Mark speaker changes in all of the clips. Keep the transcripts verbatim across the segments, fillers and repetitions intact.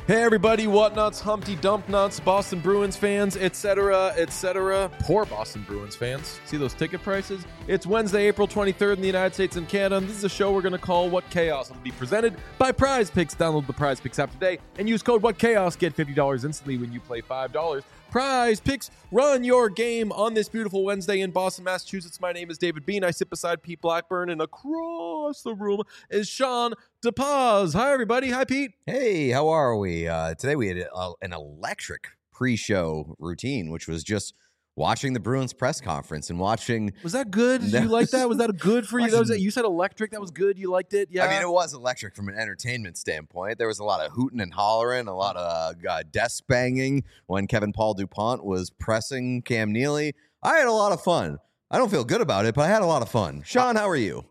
Speaker 1: Hey everybody, what nuts, Humpty Dump nuts, Boston Bruins fans, et cetera, et cetera. Poor Boston Bruins fans. See those ticket prices? It's Wednesday, April twenty-third in the United States and Canada, and this is a show we're going to call What Chaos. It'll be presented by Prize Picks. Download the Prize Picks app today and use code What Chaos. Get fifty dollars instantly when you play five dollars. Prize Picks, run your game on this beautiful Wednesday in Boston, Massachusetts. My name is David Bean. I sit beside Pete Blackburn, and across the room is Sean DePaz. Hi, everybody. Hi, Pete.
Speaker 2: Hey, how are we? Uh, today we had a, an electric pre-show routine, which was just watching the Bruins press conference and watching.
Speaker 1: Was that good? Did you like that? Was that good for you? That was, you said electric. That was good. You liked it? Yeah.
Speaker 2: I mean, it was electric from an entertainment standpoint. There was a lot of hooting and hollering, a lot of uh, desk banging when Kevin Paul DuPont was pressing Cam Neely. I had a lot of fun. I don't feel good about it, but I had a lot of fun. Sean, how are you?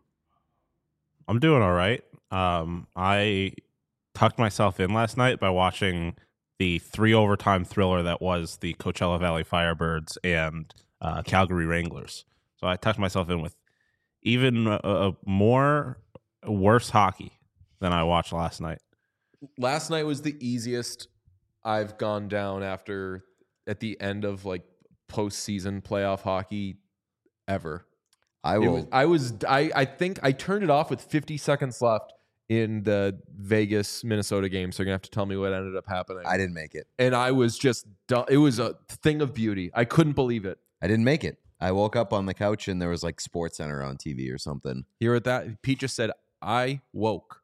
Speaker 3: I'm doing all right. Um, I tucked myself in last night by watching the three overtime thriller that was the Coachella Valley Firebirds and uh, Calgary Wranglers. So I tucked myself in with even a, a more worse hockey than I watched last night.
Speaker 1: Last night was the easiest I've gone down after at the end of like postseason playoff hockey ever.
Speaker 2: I will.
Speaker 1: Was, I was. I. I think I turned it off with fifty seconds left in the Vegas Minnesota game. So you're gonna have to tell me what ended up happening.
Speaker 2: I didn't make it,
Speaker 1: and I was just. Done. It was a thing of beauty. I couldn't believe it.
Speaker 2: I didn't make it. I woke up on the couch and there was like Sports Center on T V or something.
Speaker 1: Here at that, Pete just said, "I woke."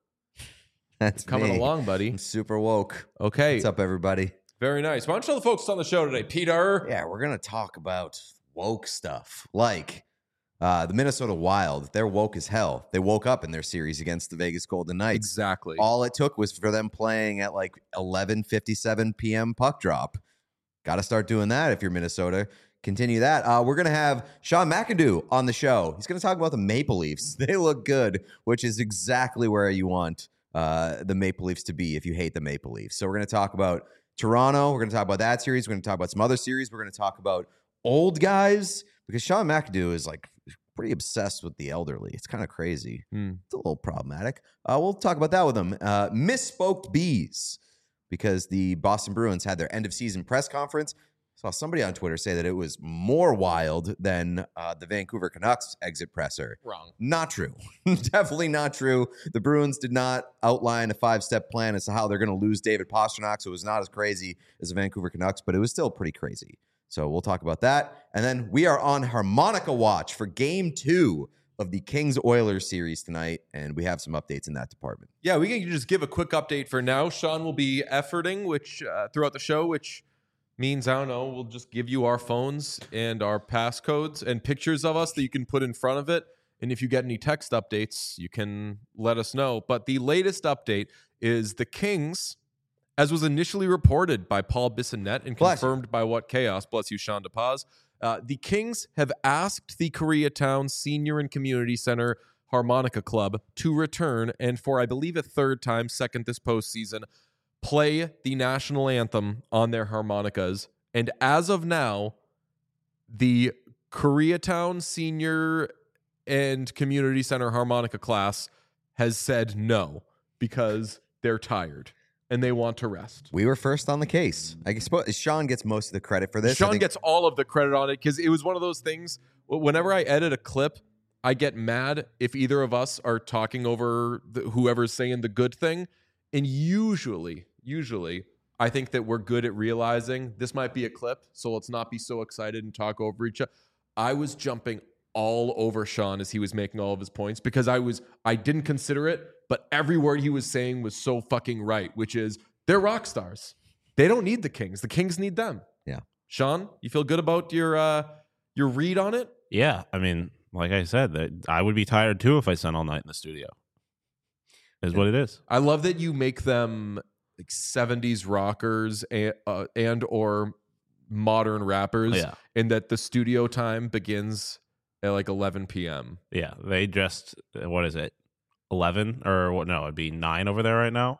Speaker 2: That's
Speaker 1: coming
Speaker 2: me.
Speaker 1: along, buddy.
Speaker 2: I'm super woke.
Speaker 1: Okay,
Speaker 2: what's up, everybody?
Speaker 1: Very nice. Why don't you tell the folks on the show today, Peter?
Speaker 2: Yeah, we're gonna talk about woke stuff, like. Uh, the Minnesota Wild, they're woke as hell. They woke up in their series against the Vegas Golden Knights.
Speaker 1: Exactly.
Speaker 2: All it took was for them playing at like eleven fifty-seven p.m. puck drop. Got to start doing that if you're Minnesota. Continue that. Uh, we're going to have Sean McIndoe on the show. He's going to talk about the Maple Leafs. They look good, which is exactly where you want uh, the Maple Leafs to be if you hate the Maple Leafs. So we're going to talk about Toronto. We're going to talk about that series. We're going to talk about some other series. We're going to talk about old guys. Because Sean McIndoe is like pretty obsessed with the elderly. It's kind of crazy.
Speaker 1: Mm.
Speaker 2: It's a little problematic. Uh, we'll talk about that with him. Uh, Misspoked Bees, because the Boston Bruins had their end of season press conference. Saw somebody on Twitter say that it was more wild than uh, the Vancouver Canucks exit presser.
Speaker 1: Wrong.
Speaker 2: Not true. Definitely not true. The Bruins did not outline a five-step plan as to how they're going to lose David Pastrnak, so it was not as crazy as the Vancouver Canucks, but it was still pretty crazy. So we'll talk about that. And then we are on harmonica watch for game two of the Kings-Oilers series tonight, and we have some updates in that department.
Speaker 1: Yeah, we can just give a quick update for now. Sean will be efforting which uh, throughout the show, which means, I don't know, we'll just give you our phones and our passcodes and pictures of us that you can put in front of it. And if you get any text updates, you can let us know. But the latest update is the Kings, as was initially reported by Paul Bissonnette and confirmed by What Chaos, bless you, Sean DePaz, uh, the Kings have asked the Koreatown Senior and Community Center Harmonica Club to return and for, I believe, a third time, second this postseason, play the national anthem on their harmonicas. And as of now, the Koreatown Senior and Community Center harmonica class has said no because they're tired. And they want to rest.
Speaker 2: We were first on the case. I suppose Sean gets most of the credit for this.
Speaker 1: Sean think- gets all of the credit on it because it was one of those things. Whenever I edit a clip, I get mad if either of us are talking over the, whoever's saying the good thing. And usually, usually, I think that we're good at realizing this might be a clip, so let's not be so excited and talk over each other. I was jumping all over Sean as he was making all of his points because I was I didn't consider it. But every word he was saying was so fucking right, which is they're rock stars. They don't need the Kings. The Kings need them.
Speaker 2: Yeah.
Speaker 1: Sean, you feel good about your uh, your read on it?
Speaker 3: Yeah. I mean, like I said, that I would be tired too if I spent all night in the studio. Is yeah. what it is.
Speaker 1: I love that you make them like seventies rockers and, uh, and or modern rappers,
Speaker 3: yeah.
Speaker 1: and that the studio time begins at like eleven p.m.
Speaker 3: Yeah. They just, what is it? eleven or what? No, it'd be nine over there right now.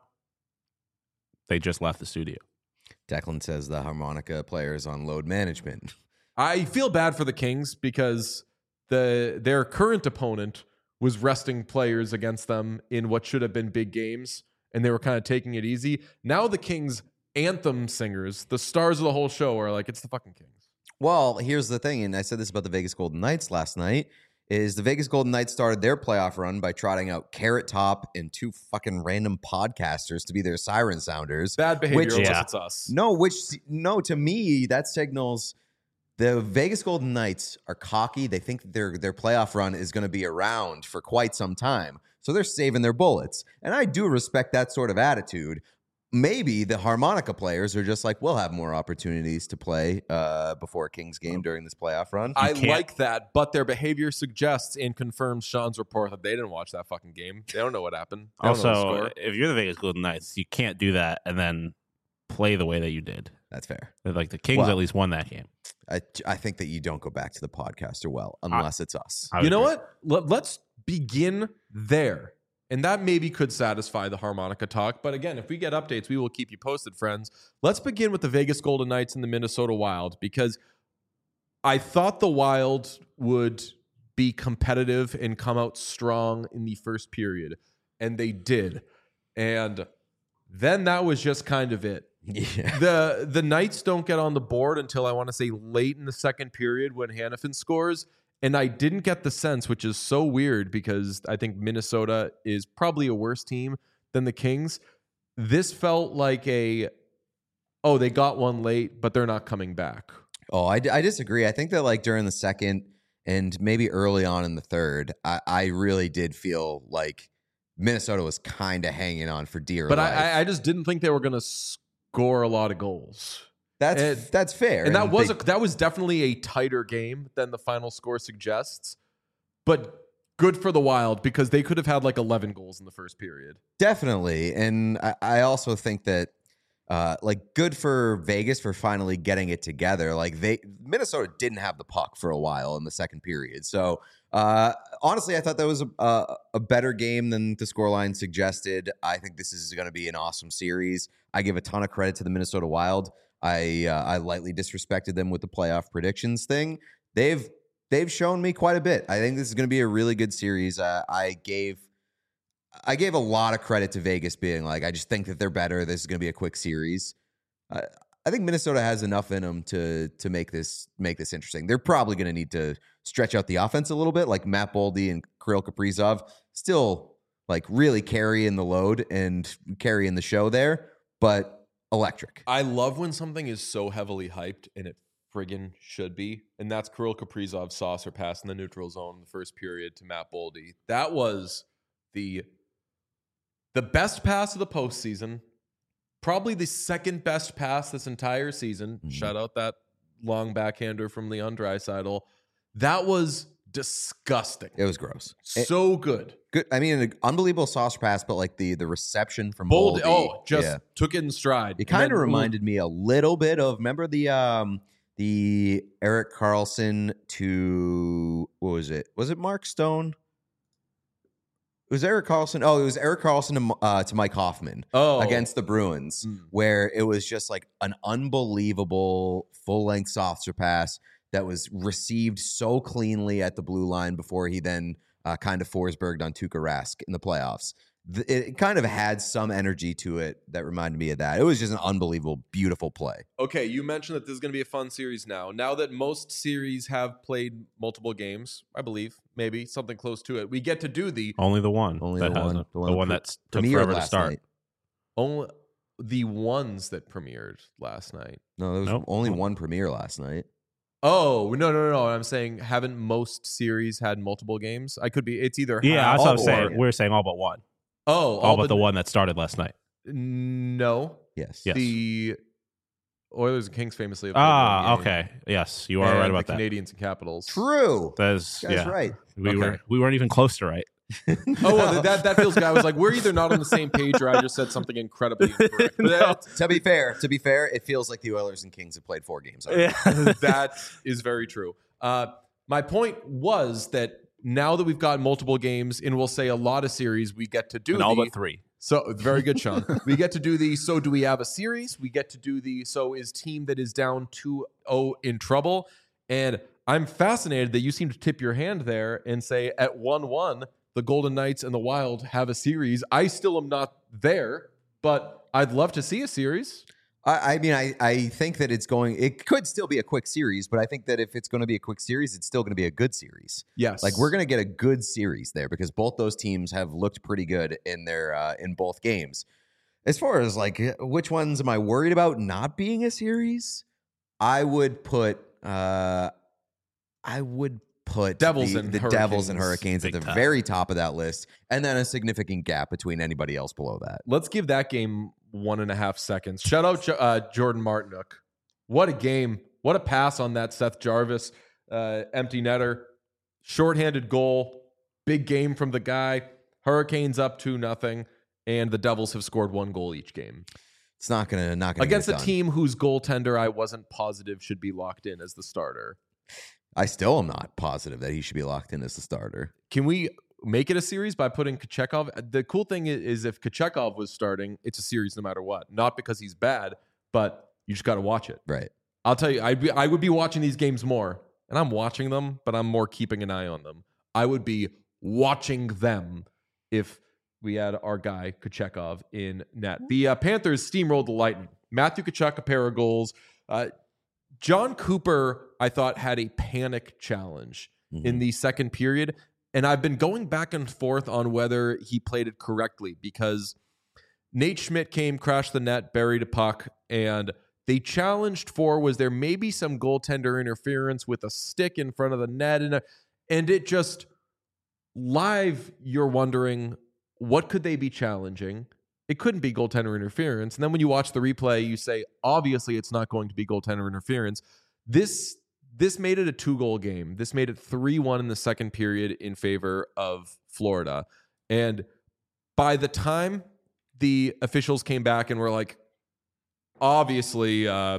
Speaker 3: They just left the studio.
Speaker 2: Declan says the harmonica player is on load management.
Speaker 1: I feel bad for the Kings because the their current opponent was resting players against them in what should have been big games, and they were kind of taking it easy. Now the Kings anthem singers, the stars of the whole show, are like, it's the fucking Kings.
Speaker 2: Well, here's the thing, and I said this about the Vegas Golden Knights last night, is the Vegas Golden Knights started their playoff run by trotting out Carrot Top and two fucking random podcasters to be their siren sounders.
Speaker 1: Bad behavior
Speaker 2: Which-
Speaker 1: unless
Speaker 3: Yeah.
Speaker 1: it's us.
Speaker 2: No, which, no, to me, that signals the Vegas Golden Knights are cocky. They think their their playoff run is going to be around for quite some time. So they're saving their bullets. And I do respect that sort of attitude. Maybe the harmonica players are just like, we'll have more opportunities to play uh, before a Kings game during this playoff run.
Speaker 1: I
Speaker 3: can't-
Speaker 1: like that, but their behavior suggests and confirms Sean's report that they didn't watch that fucking game. They don't know what happened. They don't know the
Speaker 3: Also,
Speaker 1: score.
Speaker 3: if you're the Vegas Golden Knights, you can't do that and then play the way that you did.
Speaker 2: That's fair.
Speaker 3: Like the Kings
Speaker 2: Well,
Speaker 3: at least won that game.
Speaker 2: I, I think that you don't go back to the podcaster well, unless it's us.
Speaker 3: I
Speaker 1: You
Speaker 3: would
Speaker 1: know
Speaker 3: agree.
Speaker 1: what? Let, let's begin there. And that maybe could satisfy the harmonica talk. But again, if we get updates, we will keep you posted, friends. Let's begin with the Vegas Golden Knights and the Minnesota Wild, because I thought the Wild would be competitive and come out strong in the first period. And they did. And then that was just kind of it.
Speaker 2: Yeah.
Speaker 1: the the Knights don't get on the board until I want to say late in the second period when Hannafin scores. And I didn't get the sense, which is so weird because I think Minnesota is probably a worse team than the Kings. This felt like a, oh, they got one late, but they're not coming back.
Speaker 2: Oh, I, I disagree. I think that like during the second and maybe early on in the third, I, I really did feel like Minnesota was kind of hanging on for dear
Speaker 1: But
Speaker 2: life.
Speaker 1: I, I- I just didn't think they were going to score a lot of goals.
Speaker 2: that's
Speaker 1: and-
Speaker 2: that's fair.
Speaker 1: And that was
Speaker 2: they-
Speaker 1: a, that was definitely a tighter game than the final score suggests. But good for the Wild because they could have had like eleven goals in the first period.
Speaker 2: definitely, and I, I also think that uh, like good for Vegas for finally getting it together. Like they Minnesota didn't have the puck for a while in the second period, so uh, honestly, I thought that was a, a, a better game than the scoreline suggested. I think this is going to be an awesome series. I give a ton of credit to the Minnesota Wild. I uh, I lightly disrespected them with the playoff predictions thing. They've they've shown me quite a bit. I think this is going to be a really good series. Uh, I gave I gave a lot of credit to Vegas being like, I just think that they're better. This is going to be a quick series. Uh, I think Minnesota has enough in them to to make this make this interesting. They're probably going to need to stretch out the offense a little bit, like Matt Boldy and Kirill Kaprizov still like really carrying the load and carrying the show there, but electric.
Speaker 1: I love when something is so heavily hyped and it friggin' should be. And that's Kirill Kaprizov's saucer pass in the neutral zone in the first period to Matt Boldy. That was the the best pass of the postseason. Probably the second best pass this entire season.
Speaker 2: Mhm.
Speaker 1: Shout out that long backhander from Leon Draisaitl. That was disgusting.
Speaker 2: It was gross. It-
Speaker 1: So good.
Speaker 2: good. I mean, an unbelievable saucer pass, but like the the reception from
Speaker 1: Bold.
Speaker 2: Boldy,
Speaker 1: Oh, just
Speaker 2: yeah.
Speaker 1: took it in stride.
Speaker 2: It kind
Speaker 1: And
Speaker 2: of
Speaker 1: then-
Speaker 2: reminded me a little bit of remember the um the Eric Carlson to what was it? Was it Mark Stone? It was Eric Carlson. Oh, it was Eric Carlson to, uh, to Mike Hoffman
Speaker 1: oh,
Speaker 2: against the Bruins,
Speaker 1: Mm.
Speaker 2: where it was just like an unbelievable full length saucer pass that was received so cleanly at the blue line before he then uh, kind of Forsberged on Tuukka Rask in the playoffs. Th- It kind of had some energy to it that reminded me of that. It was just an unbelievable, beautiful play.
Speaker 1: Okay, you mentioned that this is going to be a fun series now. Now that most series have played multiple games, I believe, maybe something close to it, we get to do the
Speaker 3: Only the one.
Speaker 2: Only
Speaker 3: that
Speaker 2: the one-
Speaker 3: hasn't.
Speaker 2: the
Speaker 3: The
Speaker 2: one
Speaker 3: one,
Speaker 2: that
Speaker 3: that's took
Speaker 2: Premiered
Speaker 3: forever to
Speaker 2: last
Speaker 3: start.
Speaker 2: night.
Speaker 1: only the ones that premiered last night.
Speaker 2: No, there was
Speaker 3: Nope.
Speaker 2: only
Speaker 3: Nope.
Speaker 2: one premiere last night.
Speaker 1: Oh no no no no! I'm saying haven't most series had multiple games? I could be. It's either
Speaker 3: Yeah,
Speaker 1: half
Speaker 3: that's what I was
Speaker 1: or-
Speaker 3: saying. We were saying all but one.
Speaker 1: Oh,
Speaker 3: All, but the one that started last night.
Speaker 1: No,
Speaker 2: Yes.
Speaker 3: Yes.
Speaker 1: the Oilers and Kings famously have played
Speaker 3: Ah,
Speaker 1: one game.
Speaker 3: okay. Yes, you are
Speaker 1: And
Speaker 3: right about
Speaker 1: the
Speaker 3: that.
Speaker 1: Canadians and Capitals.
Speaker 2: True.
Speaker 3: That is,
Speaker 2: You guys
Speaker 3: yeah.
Speaker 2: right.
Speaker 3: We
Speaker 1: Okay.
Speaker 3: were we weren't even close to right.
Speaker 1: Oh well, that that feels. I was like, we're either not on the same page, or I just said something incredibly incorrect. But
Speaker 3: No.
Speaker 1: that-
Speaker 2: To be fair, to be fair, it feels like the Oilers and Kings have played four games. already.
Speaker 1: that is very true. Uh, my point was that now that we've got multiple games, and we'll say a lot of series, we get to do
Speaker 3: And all
Speaker 1: the,
Speaker 3: but three.
Speaker 1: So very good, Sean. We get to do the so do we have a series? We get to do the so is team that is down two oh in trouble. And I'm fascinated that you seem to tip your hand there and say at one one, the Golden Knights and the Wild have a series. I still am not there. but I'd love to see a series.
Speaker 2: I, I mean, I, I think that it's going, it could still be a quick series, but I think that if it's going to be a quick series, it's still going to be a good series.
Speaker 1: Yes.
Speaker 2: Like we're going to get a good series there because both those teams have looked pretty good in their, uh, in both games. As far as like, which ones am I worried about not being a series? I would put, uh, I would put
Speaker 1: Devils
Speaker 2: the,
Speaker 1: and
Speaker 2: the
Speaker 1: Hurricanes.
Speaker 2: Devils and Hurricanes at
Speaker 3: Big
Speaker 2: the
Speaker 3: time.
Speaker 2: very top of that list, and then a significant gap between anybody else below that.
Speaker 1: Let's give that game one and a half seconds. Shout out uh, Jordan Martinook. What a game. What a pass on that Seth Jarvis uh, empty netter. Shorthanded goal. Big game from the guy. Hurricanes up two nothing, and the Devils have scored one goal each game.
Speaker 2: It's not gonna not gonna
Speaker 1: Against
Speaker 2: get
Speaker 1: a
Speaker 2: it done.
Speaker 1: team whose goaltender I wasn't positive should be locked in as the starter.
Speaker 2: I still am not positive that he should be locked in as the starter.
Speaker 1: Can we make it a series by putting Kochekov? The cool thing is, is if Kochekov was starting, it's a series no matter what. Not because he's bad, but you just got to watch it.
Speaker 2: Right.
Speaker 1: I'll tell you, I'd be, I would be watching these games more, and I'm watching them, but I'm more keeping an eye on them. I would be watching them if we had our guy Kochekov in net. The uh, Panthers steamrolled the Lightning. Matthew Tkachuk, a pair of goals. Uh, John Cooper, I thought, had a panic challenge
Speaker 2: Mhm.
Speaker 1: in the second period. And I've been going back and forth on whether he played it correctly because Nate Schmidt came, crashed the net, buried a puck, and they challenged for, was there maybe some goaltender interference with a stick in front of the net? And, and it just, live, you're wondering, what could they be challenging? It couldn't be goaltender interference. And then when you watch the replay, you say, obviously it's not going to be goaltender interference. This this made it a two-goal game. This made it three one in the second period in favor of Florida. And by the time the officials came back and were like, obviously, uh,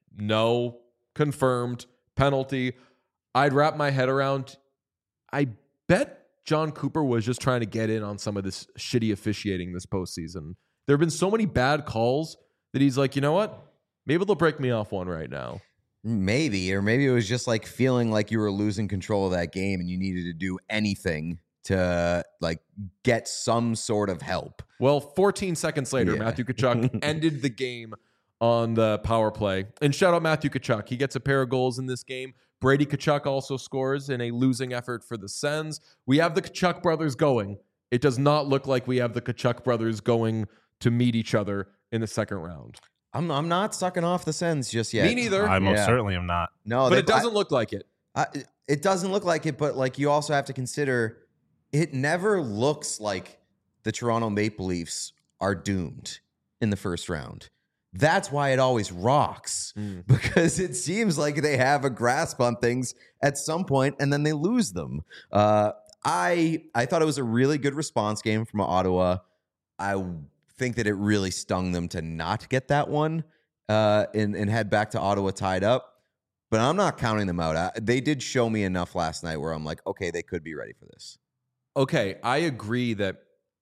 Speaker 1: no, confirmed, penalty, I'd wrap my head around, I bet John Cooper was just trying to get in on some of this shitty officiating this postseason. There have been so many bad calls that he's like, you know what? Maybe they'll break me off one right now.
Speaker 2: Maybe, or maybe it was just like feeling like you were losing control of that game and you needed to do anything to like get some sort of help.
Speaker 1: Well, fourteen seconds later,
Speaker 2: Yeah.
Speaker 1: Matthew Tkachuk ended the game on the power play. And shout out Matthew Tkachuk. He gets a pair of goals in this game. Brady Tkachuk also scores in a losing effort for the Sens. We have the Tkachuk brothers going. It does not look like we have the Tkachuk brothers going to meet each other in the second round.
Speaker 2: I'm I'm not sucking off the Sens just yet.
Speaker 1: Me neither.
Speaker 3: I most
Speaker 2: Yeah.
Speaker 3: certainly am not.
Speaker 2: No,
Speaker 1: but
Speaker 2: they-
Speaker 1: it doesn't look like it.
Speaker 2: I, I, it doesn't look like it, but like you also have to consider, it never looks like the Toronto Maple Leafs are doomed in the first round. That's why it always rocks,
Speaker 1: Mm.
Speaker 2: because it seems like they have a grasp on things at some point and then they lose them. Uh, I I thought it was a really good response game from Ottawa. I think that it really stung them to not get that one uh, and, and head back to Ottawa tied up. But I'm not counting them out. I, they did show me enough last night where I'm like, okay, they could be ready for this.
Speaker 1: Okay, I agree that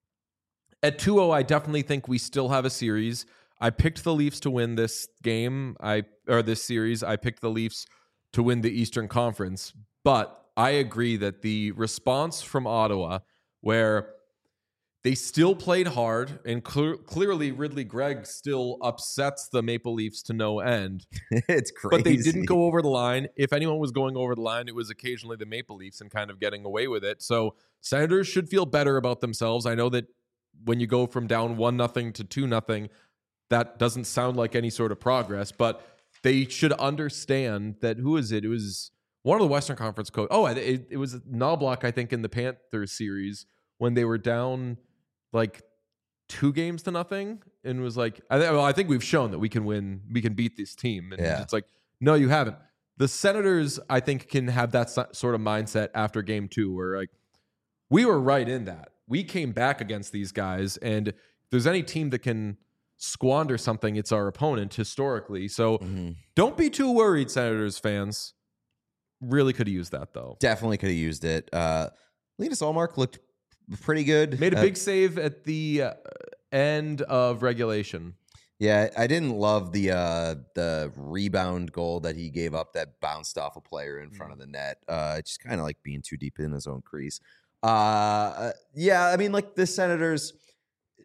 Speaker 1: at two oh, I definitely think we still have a series. I picked the Leafs to win this game, I or this series. I picked the Leafs to win the Eastern Conference. But I agree that the response from Ottawa, where they still played hard, and clear, clearly Ridley Gregg still upsets the Maple Leafs to no end.
Speaker 2: It's crazy.
Speaker 1: But they didn't go over the line. If anyone was going over the line, it was occasionally the Maple Leafs and kind of getting away with it. So Senators should feel better about themselves. I know that when you go from down one nothing to two nothing, that doesn't sound like any sort of progress, but they should understand that, who is it? It was one of the Western Conference coach. Oh, it, it was Knobloch, I think, in the Panthers series when they were down like two games to nothing, and was like, I, th- well, I think we've shown that we can win, we can beat this team. And
Speaker 2: Yeah.
Speaker 1: it's like, no, you haven't. The Senators, I think, can have that so- sort of mindset after game two, where like, we were right in that. We came back against these guys, and if there's any team that can squander something, it's our opponent historically. So
Speaker 2: Mhm.
Speaker 1: don't be too worried, Senators fans. Really could have used that, though.
Speaker 2: Definitely could have used it. Uh, Linus Ullmark looked pretty good.
Speaker 1: Made a
Speaker 2: Uh,
Speaker 1: big save at the uh, end of regulation.
Speaker 2: Yeah, I didn't love the uh, the rebound goal that he gave up that bounced off a player in front of the net. Uh, just kind of like being too deep in his own crease. Uh, yeah, I mean, like the Senators,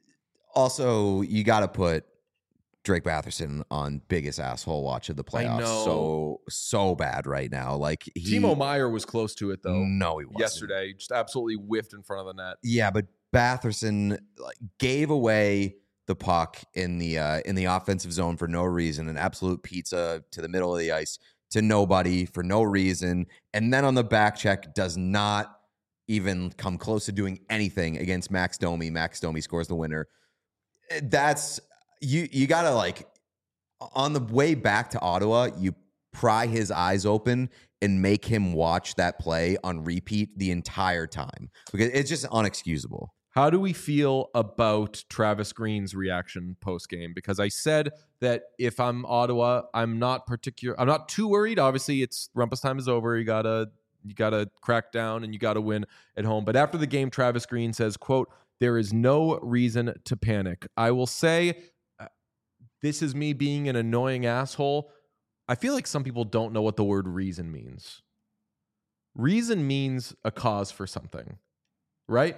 Speaker 2: Also, you got to put Drake Batherson on biggest asshole watch of the playoffs.
Speaker 1: know.
Speaker 2: So so bad right now. Like he,
Speaker 1: Timo Meyer was close to it though.
Speaker 2: No, he wasn't.
Speaker 1: Yesterday, just absolutely whiffed in front of the net.
Speaker 2: Yeah, but Batherson like, gave away the puck in the uh, in the offensive zone for no reason, an absolute pizza to the middle of the ice to nobody for no reason, and then on the back check does not even come close to doing anything against Max Domi. Max Domi scores the winner. That's you. You gotta like on the way back to Ottawa, you pry his eyes open and make him watch that play on repeat the entire time because it's just unexcusable.
Speaker 1: How do we feel about Travis Green's reaction post game? Because I said that if I'm Ottawa, I'm not particular. I'm not too worried. Obviously, it's Rumpus time is over. You gotta you gotta crack down and you gotta win at home. But after the game, Travis Green says, "quote There is no reason to panic." I will say, uh, this is me being an annoying asshole. I feel like some people don't know what the word reason means. Reason means a cause for something, right?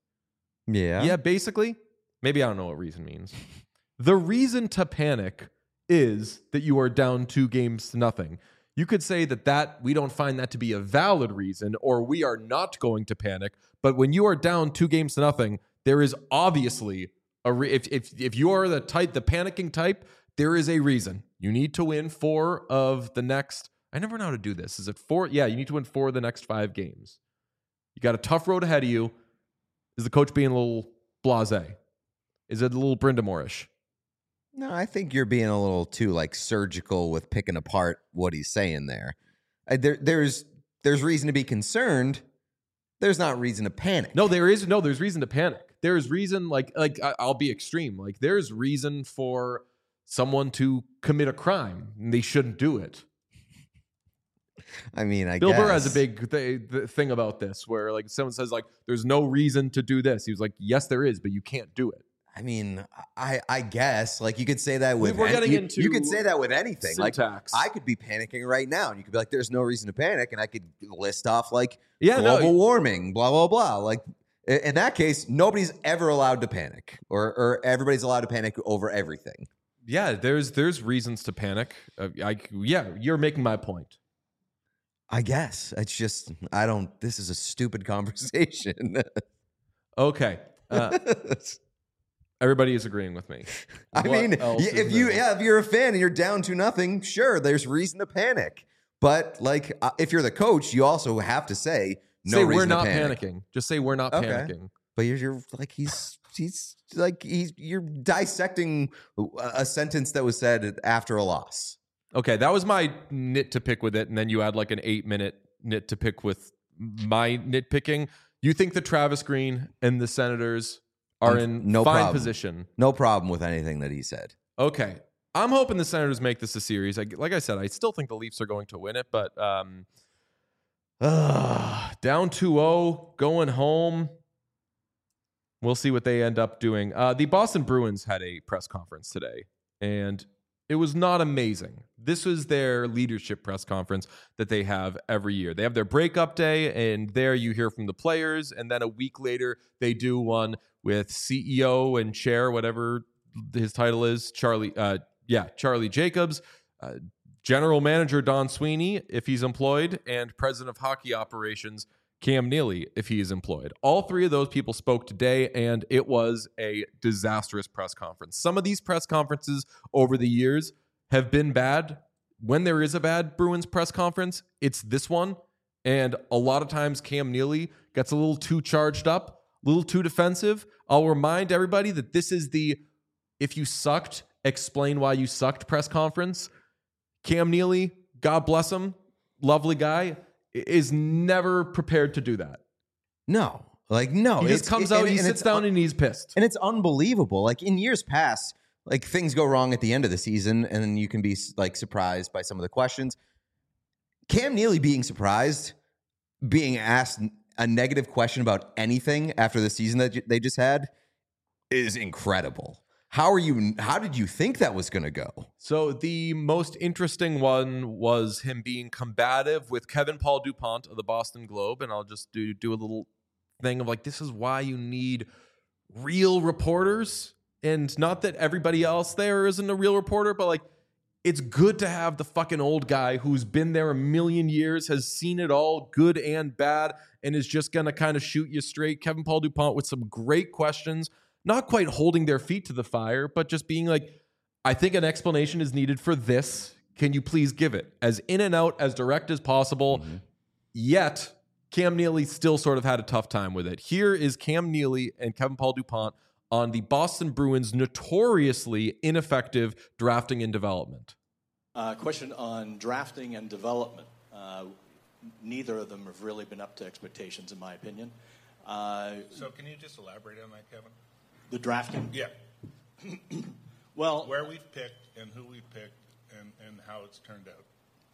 Speaker 2: Yeah.
Speaker 1: Yeah, basically. Maybe I don't know what reason means. The reason to panic is that you are down two games to nothing. You could say that that we don't find that to be a valid reason, or we are not going to panic. But when you are down two games to nothing, there is obviously a re- if if if you are the type, the panicking type, there is a reason. You need to win four of the next. I never know how to do this. Is it four? Yeah, you need to win four of the next five games. You got a tough road ahead of you. Is the coach being a little blasé? Is it a little Brindamore-ish?
Speaker 2: No, I think you're being a little too like surgical with picking apart what he's saying there. Uh, there there's there's reason to be concerned. There's not reason to panic.
Speaker 1: No, there is no. There's reason to panic. There is reason, like like I- I'll be extreme. Like there's reason for someone to commit a crime, and they shouldn't do it.
Speaker 2: I mean, I
Speaker 1: Bill
Speaker 2: guess.
Speaker 1: Burr has a big th- th- thing about this, where like someone says like, "There's no reason to do this." He was like, "Yes, there is, but you can't do it."
Speaker 2: I mean, I I guess like you could say that with
Speaker 1: We're
Speaker 2: any-
Speaker 1: getting
Speaker 2: you,
Speaker 1: into
Speaker 2: you could say that with anything.
Speaker 1: syntax.
Speaker 2: Like I could be panicking right now, and you could be like, "There's no reason to panic," and I could list off like
Speaker 1: Yeah, no,
Speaker 2: global warming, blah blah blah. Like i- in that case, nobody's ever allowed to panic, or or everybody's allowed to panic over everything.
Speaker 1: Yeah, there's there's reasons to panic. Uh, I yeah, you're making my point.
Speaker 2: I guess it's just I don't. This is a stupid conversation.
Speaker 1: Okay. Uh, everybody is agreeing with me.
Speaker 2: I
Speaker 1: What
Speaker 2: mean,
Speaker 1: else
Speaker 2: y-
Speaker 1: is
Speaker 2: if you
Speaker 1: there?
Speaker 2: yeah, if you're a fan and you're down to nothing, sure, there's reason to panic. But like, uh, if you're the coach, you also have to say no
Speaker 1: say
Speaker 2: reason
Speaker 1: we're not
Speaker 2: to panic.
Speaker 1: panicking. Just say we're not
Speaker 2: Okay.
Speaker 1: panicking.
Speaker 2: But you're, you're like he's he's like he's you're dissecting a, a sentence that was said after a loss.
Speaker 1: Okay, that was my nit to pick with it, and then you add like an eight minute nit to pick with my nitpicking. You think that Travis Green and the Senators are
Speaker 2: Um,
Speaker 1: in
Speaker 2: no
Speaker 1: fine
Speaker 2: problem.
Speaker 1: position?
Speaker 2: No problem with anything that he said.
Speaker 1: Okay, I'm hoping the Senators make this a series. I, like I said, I still think the Leafs are going to win it, but um, uh, down two oh, going home. We'll see what they end up doing. Uh, the Boston Bruins had a press conference today, and it was not amazing. This was their leadership press conference that they have every year. They have their breakup day, and there you hear from the players, and then a week later, they do one with C E O and chair, whatever his title is, Charlie, uh, yeah, Charlie Jacobs, uh, general manager Don Sweeney, if he's employed, and president of hockey operations Cam Neely, if he is employed. All three of those people spoke today, and it was a disastrous press conference. Some of these press conferences over the years have been bad. When there is a bad Bruins press conference, it's this one. And a lot of times Cam Neely gets a little too charged up, a little too defensive. I'll remind everybody that this is the if you sucked, explain why you sucked press conference. Cam Neely, God bless him, lovely guy, is never prepared to do that.
Speaker 2: No, like no.
Speaker 1: He just
Speaker 2: it's-
Speaker 1: comes
Speaker 2: it-
Speaker 1: out,
Speaker 2: and-
Speaker 1: he
Speaker 2: and
Speaker 1: sits
Speaker 2: it's
Speaker 1: down,
Speaker 2: un-
Speaker 1: and he's pissed.
Speaker 2: And it's unbelievable. Like in years past, like things go wrong at the end of the season, and then you can be like surprised by some of the questions. Cam Neely being surprised, being asked a negative question about anything after the season that they just had, is incredible. How are you? How did you think that was going to go?
Speaker 1: So the most interesting one was him being combative with Kevin Paul DuPont of the Boston Globe, and I'll just do do a little thing of like, this is why you need real reporters And not that everybody else there isn't a real reporter, but like, it's good to have the fucking old guy who's been there a million years, has seen it all, good and bad, and is just going to kind of shoot you straight. Kevin Paul DuPont with some great questions, not quite holding their feet to the fire, but just being like, I think an explanation is needed for this. Can you please give it? As in and out, as direct as possible. Mm-hmm. Yet, Cam Neely still sort of had a tough time with it. Here is Cam Neely and Kevin Paul DuPont on the Boston Bruins' notoriously ineffective drafting and development.
Speaker 4: Uh, question on drafting and development. Uh, neither of them have really been up to expectations, in my opinion. Uh,
Speaker 5: so can you just elaborate on that, Kevin?
Speaker 4: The drafting?
Speaker 5: Yeah.
Speaker 4: Well,
Speaker 5: where we've picked and who we've picked and, and how it's turned out.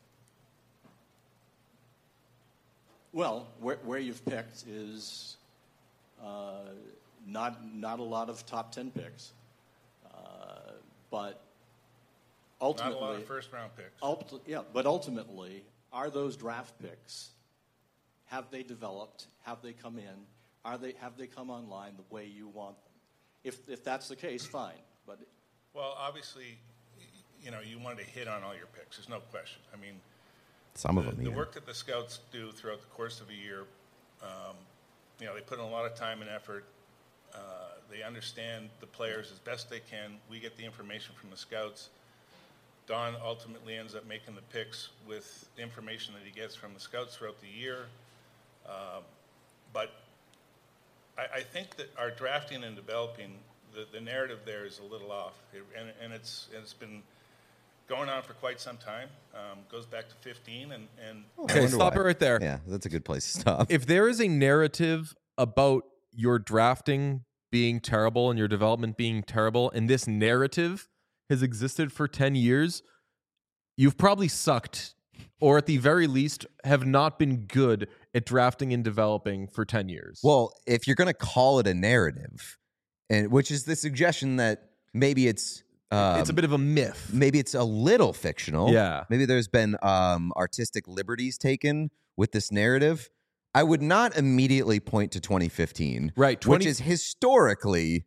Speaker 4: Well, where, where you've picked is... Uh, Not not a lot of top ten picks, uh, but ultimately
Speaker 5: not a lot of first round picks.
Speaker 4: Ulti- yeah, but ultimately, are those draft picks? Have they developed? Have they come in? Are they have they come online the way you want them? If if that's the case, fine. But
Speaker 5: well, obviously, you know, you wanted to hit on all your picks. There's no question. I mean,
Speaker 2: some of
Speaker 5: the,
Speaker 2: them.
Speaker 5: The
Speaker 2: either.
Speaker 5: work that the scouts do throughout the course of a year, um, you know, they put in a lot of time and effort. Uh, they understand the players as best they can. We get the information from the scouts. Don ultimately ends up making the picks with information that he gets from the scouts throughout the year. Uh, but I, I think that our drafting and developing, the, the narrative there is a little off. It, and, and it's it's been going on for quite some time. Um, goes back to fifteen. And, and
Speaker 1: okay, stop
Speaker 2: why.
Speaker 1: it right there.
Speaker 2: Yeah, that's a good place to stop.
Speaker 1: If there is a narrative about your drafting being terrible and your development being terrible, and this narrative has existed for ten years, you've probably sucked, or at the very least have not been good at drafting and developing for ten years.
Speaker 2: Well, if you're going to call it a narrative, and which is the suggestion that maybe it's um,
Speaker 1: it's a bit of a myth.
Speaker 2: Maybe it's a little fictional.
Speaker 1: Yeah.
Speaker 2: Maybe there's been um, artistic liberties taken with this narrative. I would not immediately point to twenty fifteen,
Speaker 1: right? twenty-
Speaker 2: which is historically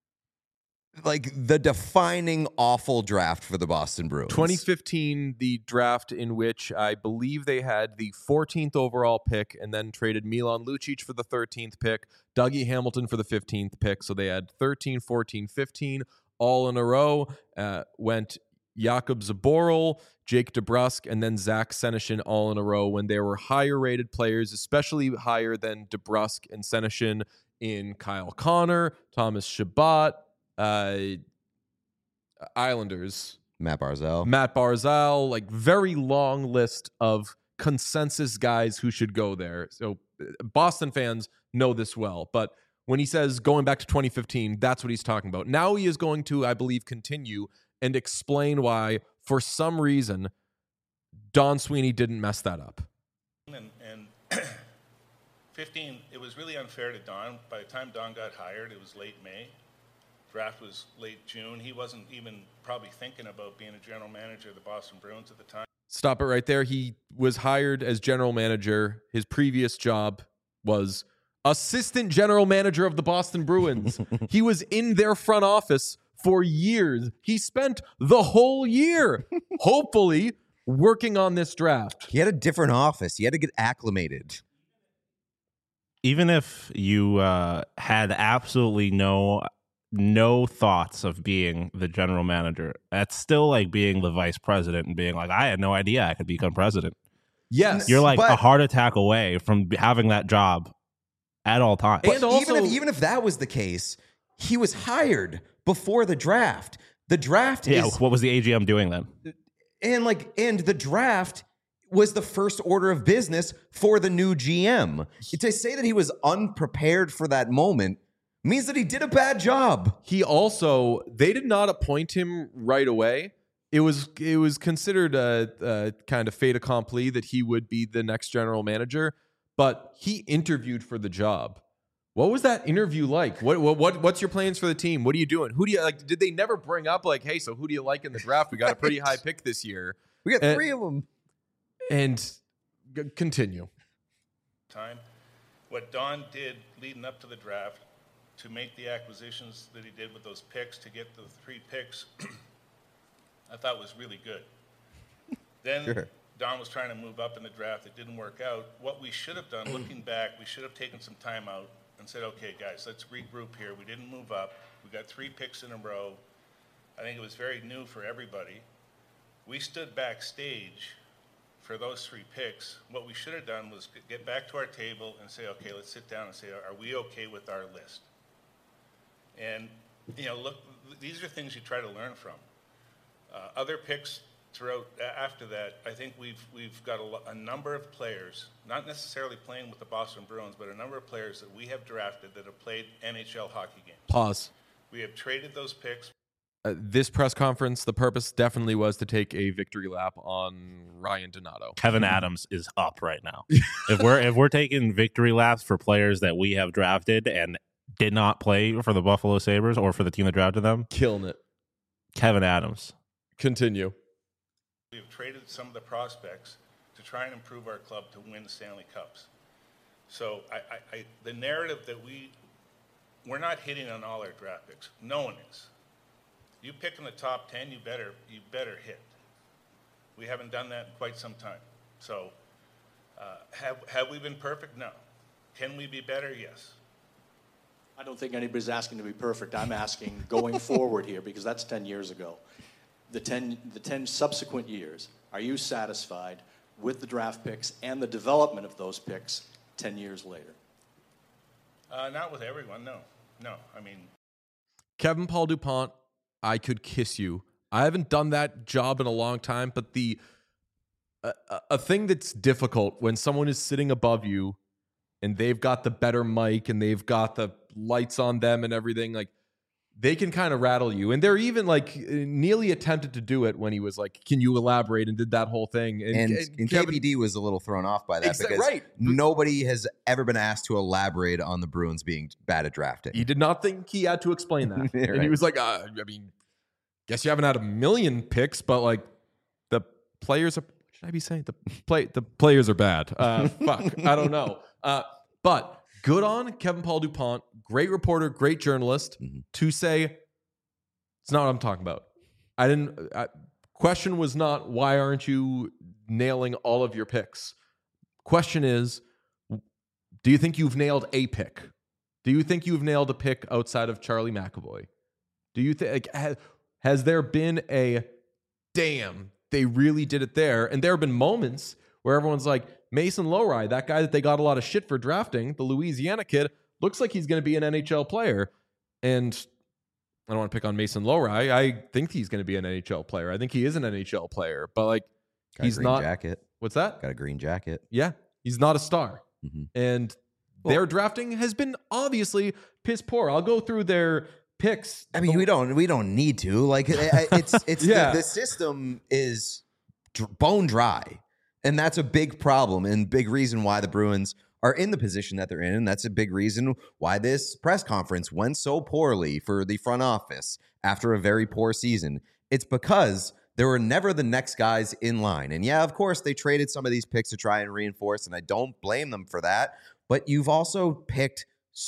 Speaker 2: like the defining awful draft for the Boston Bruins.
Speaker 1: twenty fifteen, the draft in which I believe they had the fourteenth overall pick and then traded Milan Lucic for the thirteenth pick, Dougie Hamilton for the fifteenth pick. So they had thirteen, fourteen, fifteen all in a row. Uh, went Jakub Zaboral, Jake DeBrusk, and then Zach Senyshyn all in a row when there were higher-rated players, especially higher than DeBrusk and Senyshyn in Kyle Connor, Thomas Chabot, uh, Islanders.
Speaker 2: Matt Barzal.
Speaker 1: Matt Barzal, like very long list of consensus guys who should go there. So Boston fans know this well, but when he says going back to twenty fifteen, that's what he's talking about. Now he is going to, I believe, continue and explain why, for some reason, Don Sweeney didn't mess that up.
Speaker 5: And, and fifteen, it was really unfair to Don. By the time Don got hired, it was late May. Draft was late June. He wasn't even probably thinking about being a general manager of the Boston Bruins at the time.
Speaker 1: Stop it right there. He was hired as general manager. His previous job was assistant general manager of the Boston Bruins. He was in their front office for years. He spent the whole year, hopefully, working on this draft.
Speaker 2: He had a different office. He had to get acclimated.
Speaker 3: Even if you uh, had absolutely no no thoughts of being the general manager, that's still like being the vice president and being like, I had no idea I could become president.
Speaker 1: Yes.
Speaker 3: You're like
Speaker 2: but,
Speaker 3: a heart attack away from having that job at all times.
Speaker 1: And also,
Speaker 2: even if even if that was the case, he was hired before the draft. The draft
Speaker 3: yeah,
Speaker 2: is
Speaker 3: what was the A G M doing then?
Speaker 2: and like and the draft was the first order of business for the new G M. To say that he was unprepared for that moment means that he did a bad job.
Speaker 1: He also, they did not appoint him right away. It was it was considered a, a kind of fait accompli that he would be the next general manager, but he interviewed for the job. What was that interview like? What what, what what's your plans for the team? What are you doing? Who do you like? Did they never bring up like, hey, so who do you like in the draft? We got a pretty high pick this year.
Speaker 2: We got
Speaker 1: And-
Speaker 2: three of them.
Speaker 1: And g- continue.
Speaker 5: Time. What Don did leading up to the draft to make the acquisitions that he did with those picks, to get the three picks, I thought was really good. Then
Speaker 2: Sure.
Speaker 5: Don was trying to move up in the draft. It didn't work out. What we should have done, looking back, we should have taken some time out and said, okay, guys, let's regroup here. We didn't move up. We got three picks in a row. I think it was very new for everybody. We stood backstage for those three picks. What we should have done was get back to our table and say, okay, let's sit down and say, are we okay with our list? And, you know, look, these are things you try to learn from. Uh, other picks throughout after that, I think we've we've got a, a number of players, not necessarily playing with the Boston Bruins, but a number of players that we have drafted that have played N H L hockey games.
Speaker 1: Pause.
Speaker 5: We have traded those picks.
Speaker 1: Uh, this press conference, the purpose definitely was to take a victory lap on Ryan Donato.
Speaker 3: Kevin Adams is up right now. if we're if we're taking victory laps for players that we have drafted and did not play for the Buffalo Sabres or for the team that drafted them,
Speaker 1: Killing it.
Speaker 3: Kevin Adams.
Speaker 1: Continue.
Speaker 5: We have traded some of the prospects to try and improve our club to win Stanley Cups. So I, I, I, the narrative that we, we're not hitting on all our draft picks. No one is. You pick in the top ten, you better you better hit. We haven't done that in quite some time. So uh, have have we been perfect? No. Can we be better? Yes.
Speaker 4: I don't think anybody's asking to be perfect. I'm asking going forward here, because that's ten years ago. The ten, the ten subsequent years, are you satisfied with the draft picks and the development of those picks ten years later?
Speaker 5: Uh, not with everyone, no. No, I mean...
Speaker 1: Kevin Paul DuPont, I could kiss you. I haven't done that job in a long time, but the a, a thing that's difficult when someone is sitting above you and they've got the better mic and they've got the lights on them and everything, like, they can kind of rattle you. And they're even like Neely attempted to do it when he was like, can you elaborate, and did that whole thing. And,
Speaker 2: And,
Speaker 1: and
Speaker 2: and
Speaker 1: Kevin-
Speaker 2: K P D was a little thrown off by that
Speaker 1: Exa-
Speaker 2: because
Speaker 1: right.
Speaker 2: nobody has ever been asked to elaborate on the Bruins being bad at drafting.
Speaker 1: he did not think he had to explain that.
Speaker 2: Yeah,
Speaker 1: And he
Speaker 2: right.
Speaker 1: was like, uh, I mean, guess you haven't had a million picks, but like the players are, what should I be saying? The play, the players are bad. Uh, fuck, I don't know. Uh, but good on Kevin Paul DuPont, great reporter, great journalist,
Speaker 2: Mhm.
Speaker 1: to say, it's not what I'm talking about. I didn't, I, question was not, why aren't you nailing all of your picks? Question is, do you think you've nailed a pick? Do you think you've nailed a pick outside of Charlie McAvoy? Do you think, like, has, has there been a, damn, they really did it there? And there have been moments where everyone's like, Mason Lowry, that guy that they got a lot of shit for drafting, the Louisiana kid, looks like he's going to be an N H L player. And I don't want to pick on Mason Lowry. I think he's going to be an N H L player. I think he is an N H L player, but like,
Speaker 2: Got
Speaker 1: he's
Speaker 2: a green
Speaker 1: not.
Speaker 2: jacket.
Speaker 1: What's that?
Speaker 2: Got a green jacket.
Speaker 1: Yeah, he's not a star.
Speaker 2: Mhm.
Speaker 1: And their drafting has been obviously piss poor. I'll go through their picks.
Speaker 2: I mean, we don't we don't need to. Like, I- I- it's it's
Speaker 1: Yeah.
Speaker 2: the, the system is dr- bone dry, and that's a big problem and big reason why the Bruins are in the position that they're in, and that's a big reason why this press conference went so poorly for the front office after a very poor season. It's because there were never the next guys in line. And yeah, of course, they traded some of these picks to try and reinforce, and I don't blame them for that. But you've also picked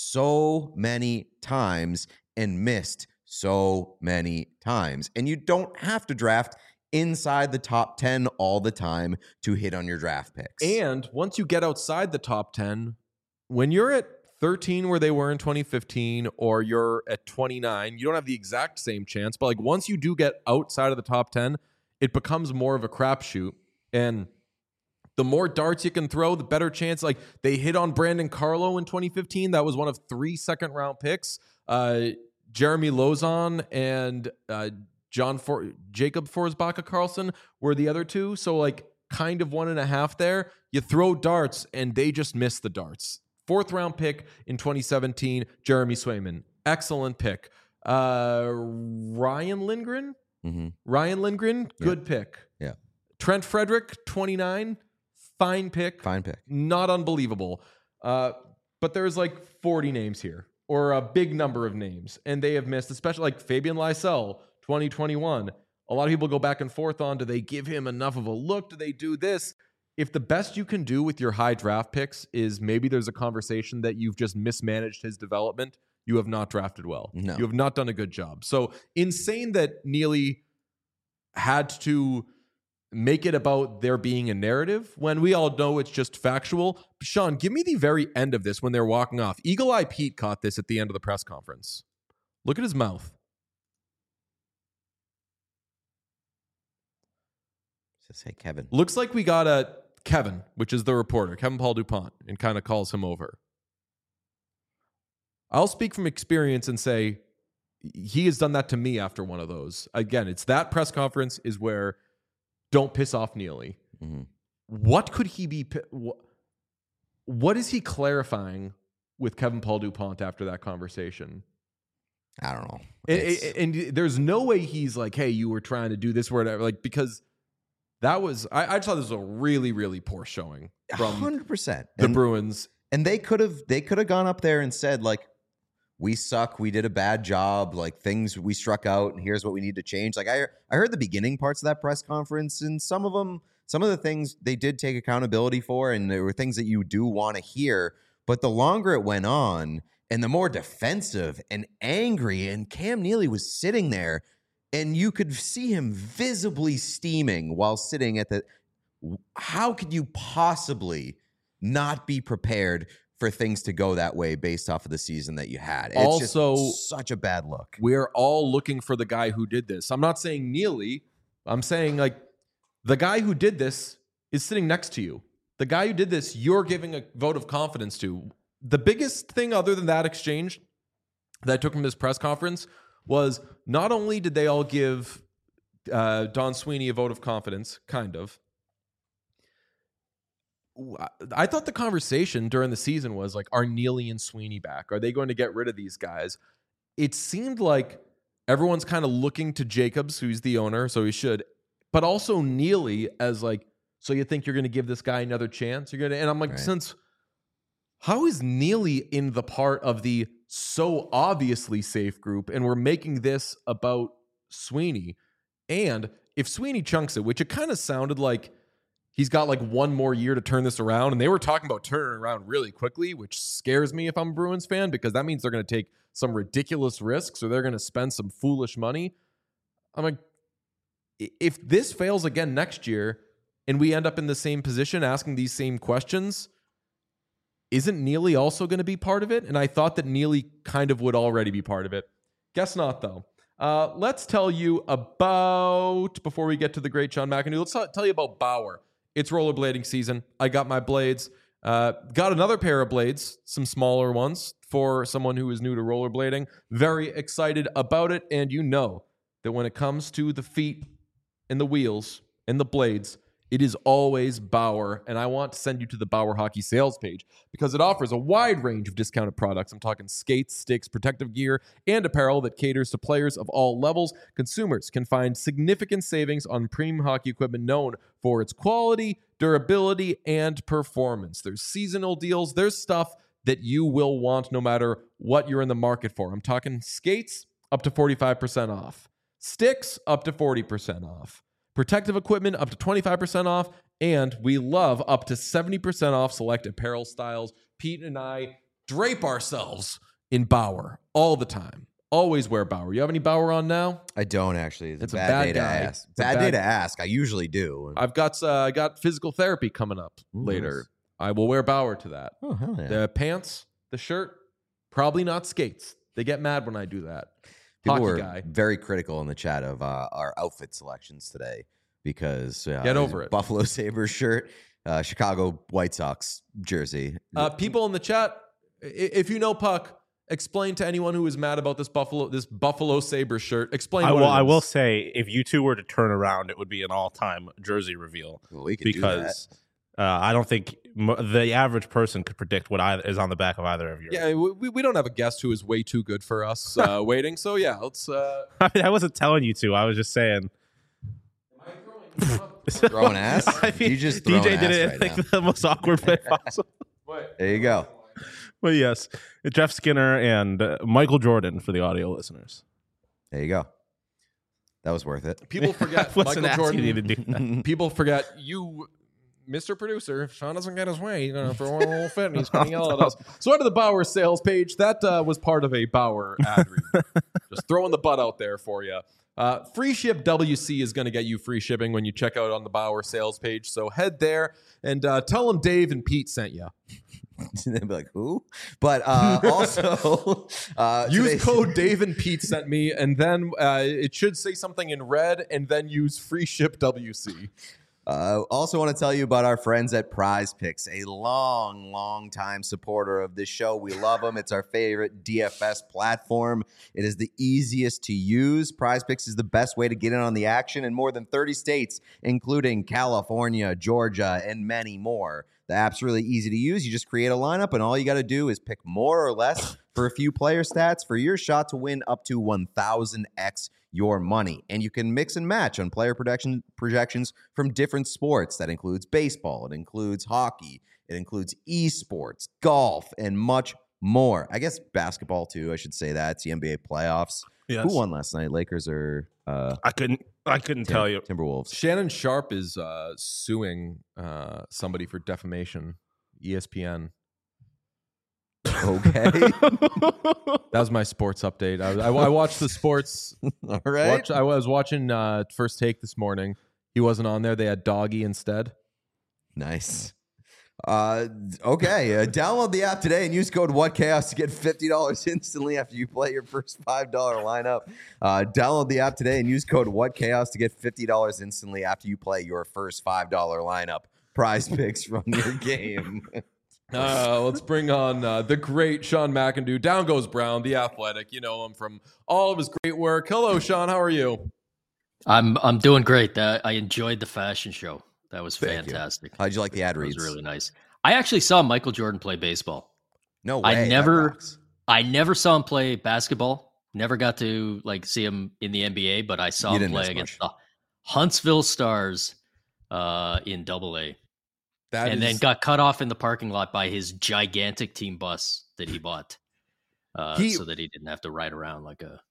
Speaker 2: so many times and missed so many times. And you don't have to draft inside the top ten all the time to hit on your draft picks.
Speaker 1: And once you get outside the top ten, when you're at thirteen where they were in twenty fifteen, or you're at twenty-nine, you don't have the exact same chance. But like once you do get outside of the top ten, it becomes more of a crapshoot. And the more darts you can throw, the better chance. Like they hit on Brandon Carlo in twenty fifteen. That was one of three second round picks. Uh, Jeremy Lozon and uh, John For- Jacob Forsbacka Carlson were the other two. So like kind of one and a half there. You throw darts and they just miss the darts. Fourth round pick in twenty seventeen, Jeremy Swayman. Excellent pick. Uh, Ryan Lindgren?
Speaker 2: Mm-hmm.
Speaker 1: Ryan Lindgren, good pick.
Speaker 2: Yeah.
Speaker 1: Trent Frederick, twenty-nine, fine pick.
Speaker 2: Fine pick.
Speaker 1: Not unbelievable. Uh, but there's like forty names here, or a big number of names, and they have missed, especially like Fabian Lysell, twenty twenty-one. A lot of people go back and forth on, do they give him enough of a look? Do they do this? If the best you can do with your high draft picks is maybe there's a conversation that you've just mismanaged his development, you have not drafted well.
Speaker 2: No.
Speaker 1: You have not done a good job. So insane that Neely had to make it about there being a narrative when we all know it's just factual. Sean, give me the very end of this when they're walking off. Eagle Eye Pete caught this at the end of the press conference. Look at his mouth.
Speaker 2: Just say Kevin.
Speaker 1: Looks like we got a Kevin, which is the reporter, Kevin Paul DuPont, and kind of calls him over. I'll speak from experience and say he has done that to me after one of those. Again, it's that press conference is where don't piss off Neely.
Speaker 2: Mm-hmm.
Speaker 1: What could he be? What, what is he clarifying with Kevin Paul DuPont after that conversation?
Speaker 2: I don't know.
Speaker 1: And,
Speaker 2: It's-
Speaker 1: and, and there's no way he's like, hey, you were trying to do this or whatever. Like, because that was, I, I just thought this was a really, really poor showing from
Speaker 2: one hundred percent.
Speaker 1: the
Speaker 2: And-
Speaker 1: Bruins.
Speaker 2: And they could have they could have gone up there and said, like, we suck, we did a bad job, like things we struck out, and here's what we need to change. Like I I heard the beginning parts of that press conference, and some of them, some of the things they did take accountability for, and there were things that you do want to hear. But the longer it went on, and the more defensive and angry, and Cam Neely was sitting there, and you could see him visibly steaming while sitting at the. How could you possibly not be prepared for things to go that way based off of the season that you had? It's
Speaker 1: Also-
Speaker 2: just such a bad look.
Speaker 1: We're all looking for the guy who did this. I'm not saying Neely. I'm saying, like, the guy who did this is sitting next to you. The guy who did this, you're giving a vote of confidence to. The biggest thing other than that exchange that I took from this press conference was not only did they all give uh, Don Sweeney a vote of confidence, kind of. I thought the conversation during the season was like, are Neely and Sweeney back? Are they going to get rid of these guys? It seemed like everyone's kind of looking to Jacobs, who's the owner, so he should, but also Neely as like, so you think you're going to give this guy another chance? You're going to, and I'm like,
Speaker 2: Right.
Speaker 1: since how is Neely in the part of the so obviously safe group, and we're making this about Sweeney? And if Sweeney chunks it, which it kind of sounded like he's got like one more year to turn this around, and they were talking about turning it around really quickly, which scares me if I'm a Bruins fan, because that means they're going to take some ridiculous risks or they're going to spend some foolish money. I'm like, if this fails again next year and we end up in the same position asking these same questions, isn't Neely also going to be part of it? And I thought that Neely kind of would already be part of it. Guess not, though. Uh, let's tell you about, before we get to the great Sean McInerney, let's t- tell you about Bauer. It's rollerblading season. I got my blades. Uh, got another pair of blades, some smaller ones for someone who is new to rollerblading. Very excited about it. And you know that when it comes to the feet and the wheels and the blades, it is always Bauer. And I want to send you to the Bauer Hockey sales page because it offers a wide range of discounted products. I'm talking skates, sticks, protective gear, and apparel that caters to players of all levels. Consumers can find significant savings on premium hockey equipment known for its quality, durability, and performance. There's seasonal deals. There's stuff that you will want no matter what you're in the market for. I'm talking skates up to forty-five percent off, sticks up to forty percent off, protective equipment up to twenty-five percent off, and we love up to seventy percent off select apparel styles. Pete and I drape ourselves in Bauer all the time. Always wear Bauer. You have any Bauer on now?
Speaker 2: I don't actually. It's,
Speaker 1: It's
Speaker 2: a
Speaker 1: a
Speaker 2: bad,
Speaker 1: bad
Speaker 2: day
Speaker 1: guy.
Speaker 2: to ask.
Speaker 1: It's a
Speaker 2: Bad,
Speaker 1: bad-
Speaker 2: day to ask. I usually do.
Speaker 1: I've got uh, I got physical therapy coming up
Speaker 2: Ooh,
Speaker 1: later.
Speaker 2: nice.
Speaker 1: I will wear Bauer to that.
Speaker 2: Oh, hell yeah.
Speaker 1: The pants, the shirt, probably not skates. They get mad when I do that.
Speaker 2: People
Speaker 1: Hockey
Speaker 2: were
Speaker 1: guy.
Speaker 2: very critical in the chat of uh, our outfit selections today because uh,
Speaker 1: Get over it.
Speaker 2: Buffalo Sabres shirt, uh, Chicago White Sox jersey.
Speaker 1: Uh, people in the chat, i- if you know Puck, explain to anyone who is mad about this Buffalo this Buffalo Sabres shirt. Explain.
Speaker 3: I
Speaker 1: what
Speaker 3: will.
Speaker 1: it
Speaker 3: I will
Speaker 1: is.
Speaker 3: say, if you two were to turn around, it would be an all-time jersey reveal
Speaker 2: Well, we could do that.
Speaker 3: because uh, I don't think m- the average person could predict what either is on the back of either of yours.
Speaker 1: Yeah, we, we don't have a guest who is way too good for us uh, waiting. So yeah, let's. Uh,
Speaker 3: I mean, I wasn't telling you to. I was just saying.
Speaker 2: Throwing ass?
Speaker 3: I mean,
Speaker 2: You just
Speaker 3: D J
Speaker 2: throwing
Speaker 3: did
Speaker 2: ass
Speaker 3: it
Speaker 2: right
Speaker 3: in like
Speaker 2: now.
Speaker 3: the most awkward way possible.
Speaker 2: There you go.
Speaker 3: But yes, Jeff Skinner and uh, Michael Jordan for the audio listeners.
Speaker 2: There you go. That was worth it.
Speaker 1: people forget
Speaker 3: I wasn't
Speaker 1: Michael
Speaker 3: asking you to
Speaker 1: Jordan.
Speaker 3: do that.
Speaker 1: People forget you. Mister Producer, if Sean doesn't get his way, he's gonna throw a little fit and he's gonna yell at us. So under the Bauer sales page, that uh, was part of a Bauer ad read. Just throwing the butt out there for you. Uh, free ship W C is going to get you free shipping when you check out on the Bauer sales page. So head there and uh, tell them Dave and Pete sent you.
Speaker 2: They'd be like, who? But uh, also, uh,
Speaker 1: use
Speaker 2: today's-
Speaker 1: code Dave and Pete sent me, and then uh, it should say something in red, and then use free ship W C.
Speaker 2: Uh, also want to tell you about our friends at Prize Picks, a long, long time supporter of this show. We love them. It's our favorite D F S platform. It is the easiest to use. Prize Picks is the best way to get in on the action in more than thirty states, including California, Georgia, and many more. The app's really easy to use. You just create a lineup, and all you got to do is pick more or less for a few player stats for your shot to win up to one thousand x your money. And you can mix and match on player projection, projections from different sports. That includes baseball. It includes hockey. It includes esports, golf, and much more. I guess basketball, too. I should say that. It's the N B A playoffs.
Speaker 3: Yes.
Speaker 2: Who won last night? Lakers or uh,
Speaker 3: I couldn't. I couldn't
Speaker 2: Tim-
Speaker 3: tell you.
Speaker 2: Timberwolves?
Speaker 1: Shannon Sharp is uh, suing uh, somebody for defamation. E S P N.
Speaker 2: Okay.
Speaker 1: That was my sports update. I, I, I watched the sports.
Speaker 2: All right.
Speaker 1: Watch, I was watching uh, First Take this morning. He wasn't on there. They had Doggy instead.
Speaker 2: Nice. Uh, okay. Uh, download the app today and use code WhatChaos to get fifty dollars instantly after you play your first five dollars lineup. Uh, download the app today and use code WhatChaos to get fifty dollars instantly after you play your first five dollars lineup. Prize Picks from your game.
Speaker 1: Uh, let's bring on uh, the great Sean McIndoe. Down goes Brown, the athletic. You know him from all of his great work. Hello, Sean. How are you?
Speaker 6: I'm I'm doing great. Uh, I enjoyed the fashion show. That was
Speaker 2: Thank you.
Speaker 6: fantastic.
Speaker 2: How'd you like the ad
Speaker 6: It
Speaker 2: reads?
Speaker 6: was really nice. I actually saw Michael Jordan play baseball.
Speaker 2: No way.
Speaker 6: I
Speaker 2: that
Speaker 6: never,
Speaker 2: rocks.
Speaker 6: I never saw him play basketball. Never got to like see him in the N B A, but I saw
Speaker 2: You
Speaker 6: him
Speaker 2: didn't
Speaker 6: play
Speaker 2: miss
Speaker 6: against
Speaker 2: much.
Speaker 6: the Huntsville Stars uh, in Double A,
Speaker 1: That
Speaker 6: and
Speaker 1: is-
Speaker 6: then got cut off in the parking lot by his gigantic team bus that he bought, uh,
Speaker 1: He-
Speaker 6: so that he didn't have to ride around like a.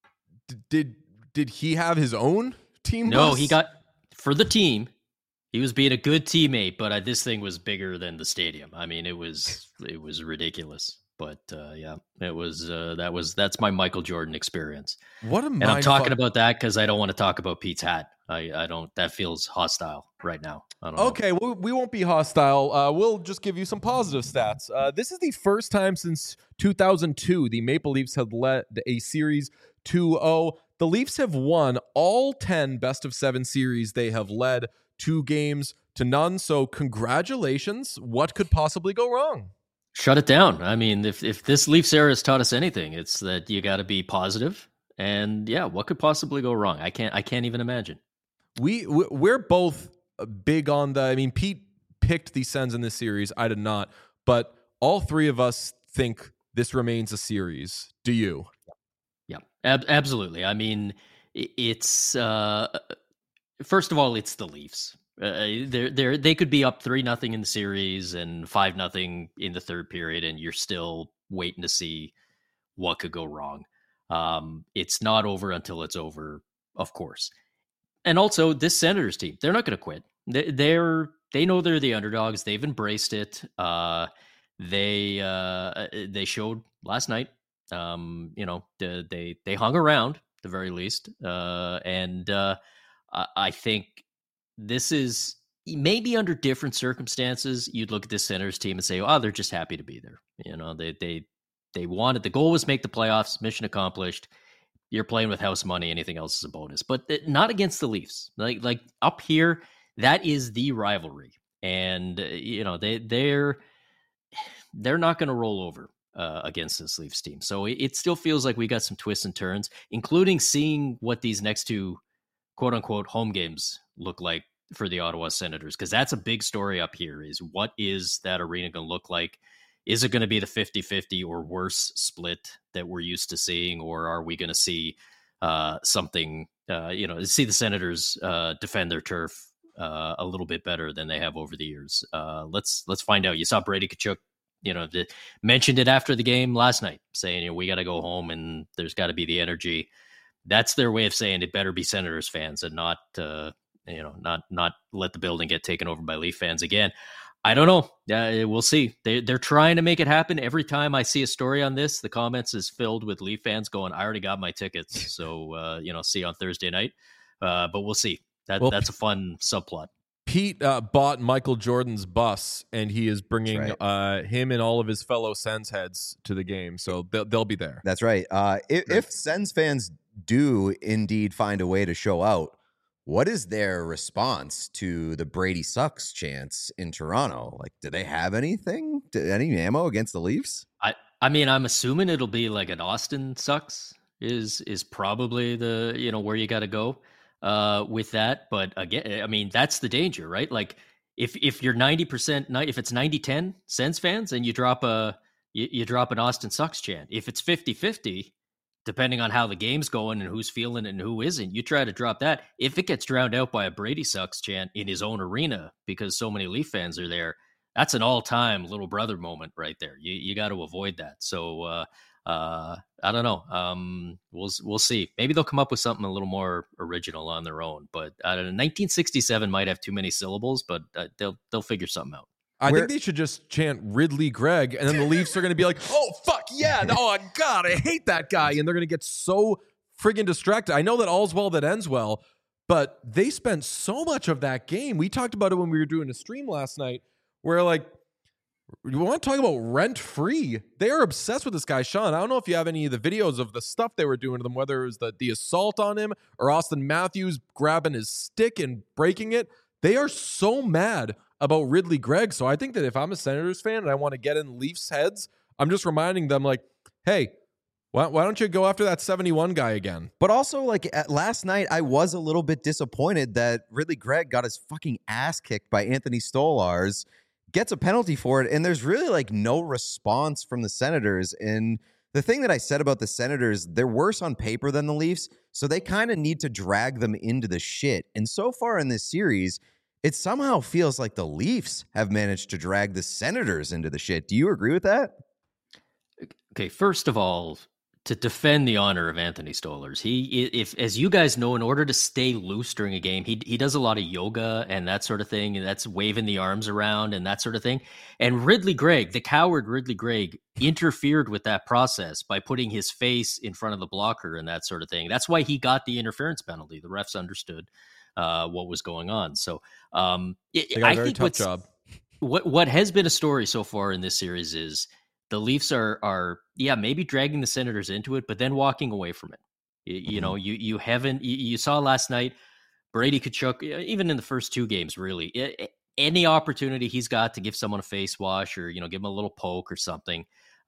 Speaker 1: did did he have his own team?
Speaker 6: No,
Speaker 1: bus?
Speaker 6: he got for the team. He was being a good teammate, but uh, this thing was bigger than the stadium. I mean, it was it was ridiculous. But uh, yeah, it was uh, that was that's my Michael Jordan experience.
Speaker 1: What a
Speaker 6: And I'm
Speaker 1: mind
Speaker 6: talking
Speaker 1: fuck-
Speaker 6: about that because I don't want to talk about Pete's hat. I, I don't. That feels hostile right now. I don't know.
Speaker 1: Okay, well, we won't be hostile. Uh, we'll just give you some positive stats. Uh, this is the first time since two thousand two the Maple Leafs have led a series two oh. The Leafs have won all ten best of seven series they have led, two games to none. So congratulations. What could possibly go wrong?
Speaker 6: Shut it down. I mean, if if this Leafs era has taught us anything, it's that you got to be positive. And yeah, what could possibly go wrong? I can't. I can't even imagine.
Speaker 1: We we- we're both big on the. I mean, Pete picked the Sens in this series. I did not, but all three of us think this remains a series. Do you?
Speaker 6: Yeah, ab- absolutely. I mean, i- it's uh, first of all, it's the Leafs. Uh, they're they they could be up three nothing in the series and five nothing in the third period, and you're still waiting to see what could go wrong. Um, it's not over until it's over, of course. And also, this Senators team, they're not going to quit. They, they're they know they're the underdogs. They've embraced it. Uh, they uh, they showed last night. Um, you know, the, they they hung around at the very least, uh, and uh, I, I think this is maybe under different circumstances. You'd look at this Senators team and say, "Oh, they're just happy to be there." You know, they they they wanted the goal was make the playoffs. Mission accomplished. You're playing with house money. Anything else is a bonus, but th- not against the Leafs. Like like up here, that is the rivalry, and uh, you know they they're they're not going to roll over uh, against this Leafs team. So it, it still feels like we got some twists and turns, including seeing what these next two quote unquote home games look like for the Ottawa Senators, because that's a big story up here. Is what is that arena going to look like? Is it going to be the fifty-fifty or worse split that we're used to seeing, or are we going to see uh, something, uh, you know, see the Senators uh, defend their turf uh, a little bit better than they have over the years? Uh, let's let's find out. You saw Brady Tkachuk, you know, the, mentioned it after the game last night, saying, you know, we got to go home and there's got to be the energy. That's their way of saying it better be Senators fans and not uh, you know, not not let the building get taken over by Leaf fans again. I don't know. Uh, we'll see. They, they're trying to make it happen. Every time I see a story on this, the comments is filled with Leaf fans going, I already got my tickets. So, uh, you know, see you on Thursday night. Uh, but we'll see. That
Speaker 1: Well,
Speaker 6: That's a fun subplot.
Speaker 1: Pete uh, bought Michael Jordan's bus, and he is bringing
Speaker 2: That's
Speaker 1: uh, him and all of his fellow Sens heads to the game. So they'll, they'll be there.
Speaker 2: That's right. Uh, if, if Sens fans do indeed find a way to show out, what is their response to the Brady sucks chants in Toronto? Like, do they have anything, any ammo against the Leafs?
Speaker 6: I, I mean, I'm assuming it'll be like an Austin sucks is is probably the, you know, where you got to go uh, with that. But again, I mean, that's the danger, right? Like if if you're ninety percent, if it's ninety ten Sens fans and you drop a, you, you drop an Austin sucks chant. If it's fifty-fifty, depending on how the game's going and who's feeling it and who isn't, you try to drop that. If it gets drowned out by a Brady sucks chant in his own arena because so many Leaf fans are there, that's an all-time little brother moment right there. You you got to avoid that. So uh, uh, I don't know. Um, we'll we'll see. Maybe they'll come up with something a little more original on their own. But I don't know. nineteen sixty-seven might have too many syllables, but uh, they'll they'll figure something out.
Speaker 1: I
Speaker 2: Where-
Speaker 1: think they should just chant Ridley Gregg, and then the Leafs are going to be like, oh, fuck, yeah. Oh, God, I hate that guy. And they're going to get so friggin' distracted. I know that all's well that ends well, but they spent so much of that game. We talked about it when we were doing a stream last night, where, like, you want to talk about rent-free? They are obsessed with this guy, Sean. I don't know if you have any of the videos of the stuff they were doing to them, whether it was the, the assault on him or Austin Matthews grabbing his stick and breaking it. They are so mad about Ridley Gregg. So I think that if I'm a Senators fan and I want to get in Leafs heads, I'm just reminding them, like, hey, why, why don't you go after that seventy-one guy again?
Speaker 2: But also, like, at last night, I was a little bit disappointed that Ridley Gregg got his fucking ass kicked by Anthony Stolarz, gets a penalty for it, and there's really, like, no response from the Senators. And the thing that I said about the Senators, they're worse on paper than the Leafs, so they kind of need to drag them into the shit. And so far in this series, it somehow feels like the Leafs have managed to drag the Senators into the shit. Do you agree with that?
Speaker 6: Okay, first of all, to defend the honor of Anthony Stolarz, he, if as you guys know, in order to stay loose during a game, he he does a lot of yoga and that sort of thing, and that's waving the arms around and that sort of thing. And Ridley Gregg, the coward Ridley Gregg, interfered with that process by putting his face in front of the blocker and that sort of thing. That's why he got the interference penalty. The refs understood uh, what was going on. So um, it,
Speaker 1: They got a
Speaker 6: I
Speaker 1: very
Speaker 6: think
Speaker 1: tough
Speaker 6: what's,
Speaker 1: job.
Speaker 6: what what has been a story so far in this series is the Leafs are are yeah maybe dragging the Senators into it, but then walking away from it. You, you know, you you haven't you, you saw last night Brady Tkachuk, even in the first two games, really it, any opportunity he's got to give someone a face wash or you know give him a little poke or something,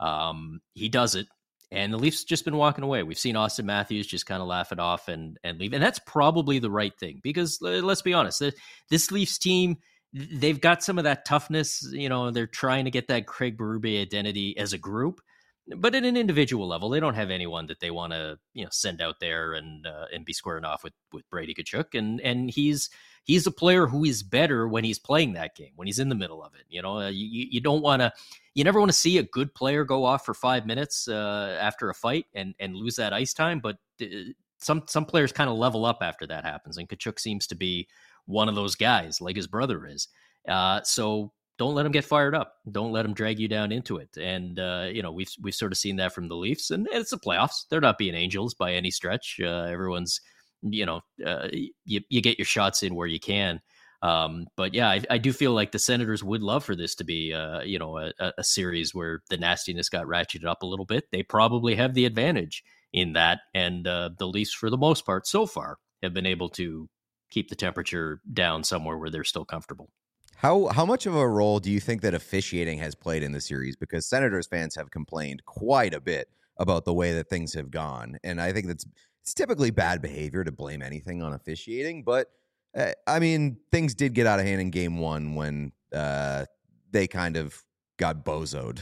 Speaker 6: um, he does it. And the Leafs just been walking away. We've seen Austin Matthews just kind of laugh it off and and leave, and that's probably the right thing because let's be honest, this Leafs team, they've got some of that toughness. You know, they're trying to get that Craig Berube identity as a group, but at an individual level, they don't have anyone that they want to, you know, send out there and uh, and be squaring off with with Brady Tkachuk. And and he's he's a player who is better when he's playing that game, when he's in the middle of it. You know, uh, you you don't want to, you never want to see a good player go off for five minutes uh, after a fight and and lose that ice time. But uh, some some players kind of level up after that happens, and Tkachuk seems to be one of those guys, like his brother is. Uh, so don't let him get fired up. Don't let him drag you down into it. And uh, you know, we've we've sort of seen that from the Leafs, and it's the playoffs. They're not being angels by any stretch. Uh, everyone's, you know, uh, you you get your shots in where you can. Um, but yeah, I, I do feel like the Senators would love for this to be, uh, you know, a, a series where the nastiness got ratcheted up a little bit. They probably have the advantage in that, and uh, the Leafs, for the most part, so far, have been able to keep the temperature down somewhere where they're still comfortable.
Speaker 2: How how much of a role do you think that officiating has played in the series? Because Senators fans have complained quite a bit about the way that things have gone, and I think that's it's typically bad behavior to blame anything on officiating. But uh, I mean, things did get out of hand in Game One when uh, they kind of got bozoed.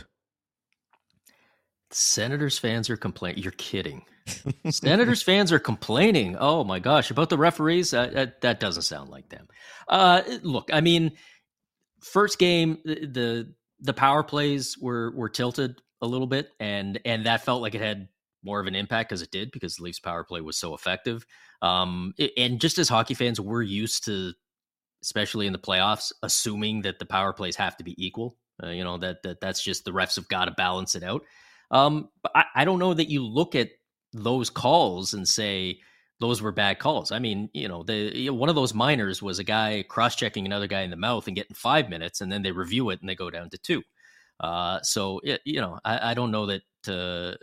Speaker 6: Senators fans are complaining. You're kidding. Senators fans are complaining. Oh my gosh, about the referees. Uh, that, that doesn't sound like them. Uh, look, I mean, first game, the the power plays were were tilted a little bit, and and that felt like it had more of an impact because it did, because the Leafs power play was so effective. Um, and just as hockey fans, we're used to, especially in the playoffs, assuming that the power plays have to be equal. Uh, you know, that, that that's just the refs have got to balance it out. Um, but I, I don't know that you look at those calls and say those were bad calls. I mean, you know, the you know, one of those minors was a guy cross-checking another guy in the mouth and getting five minutes, and then they review it and they go down to two. Uh, so, it, you know, I, I don't know that, uh,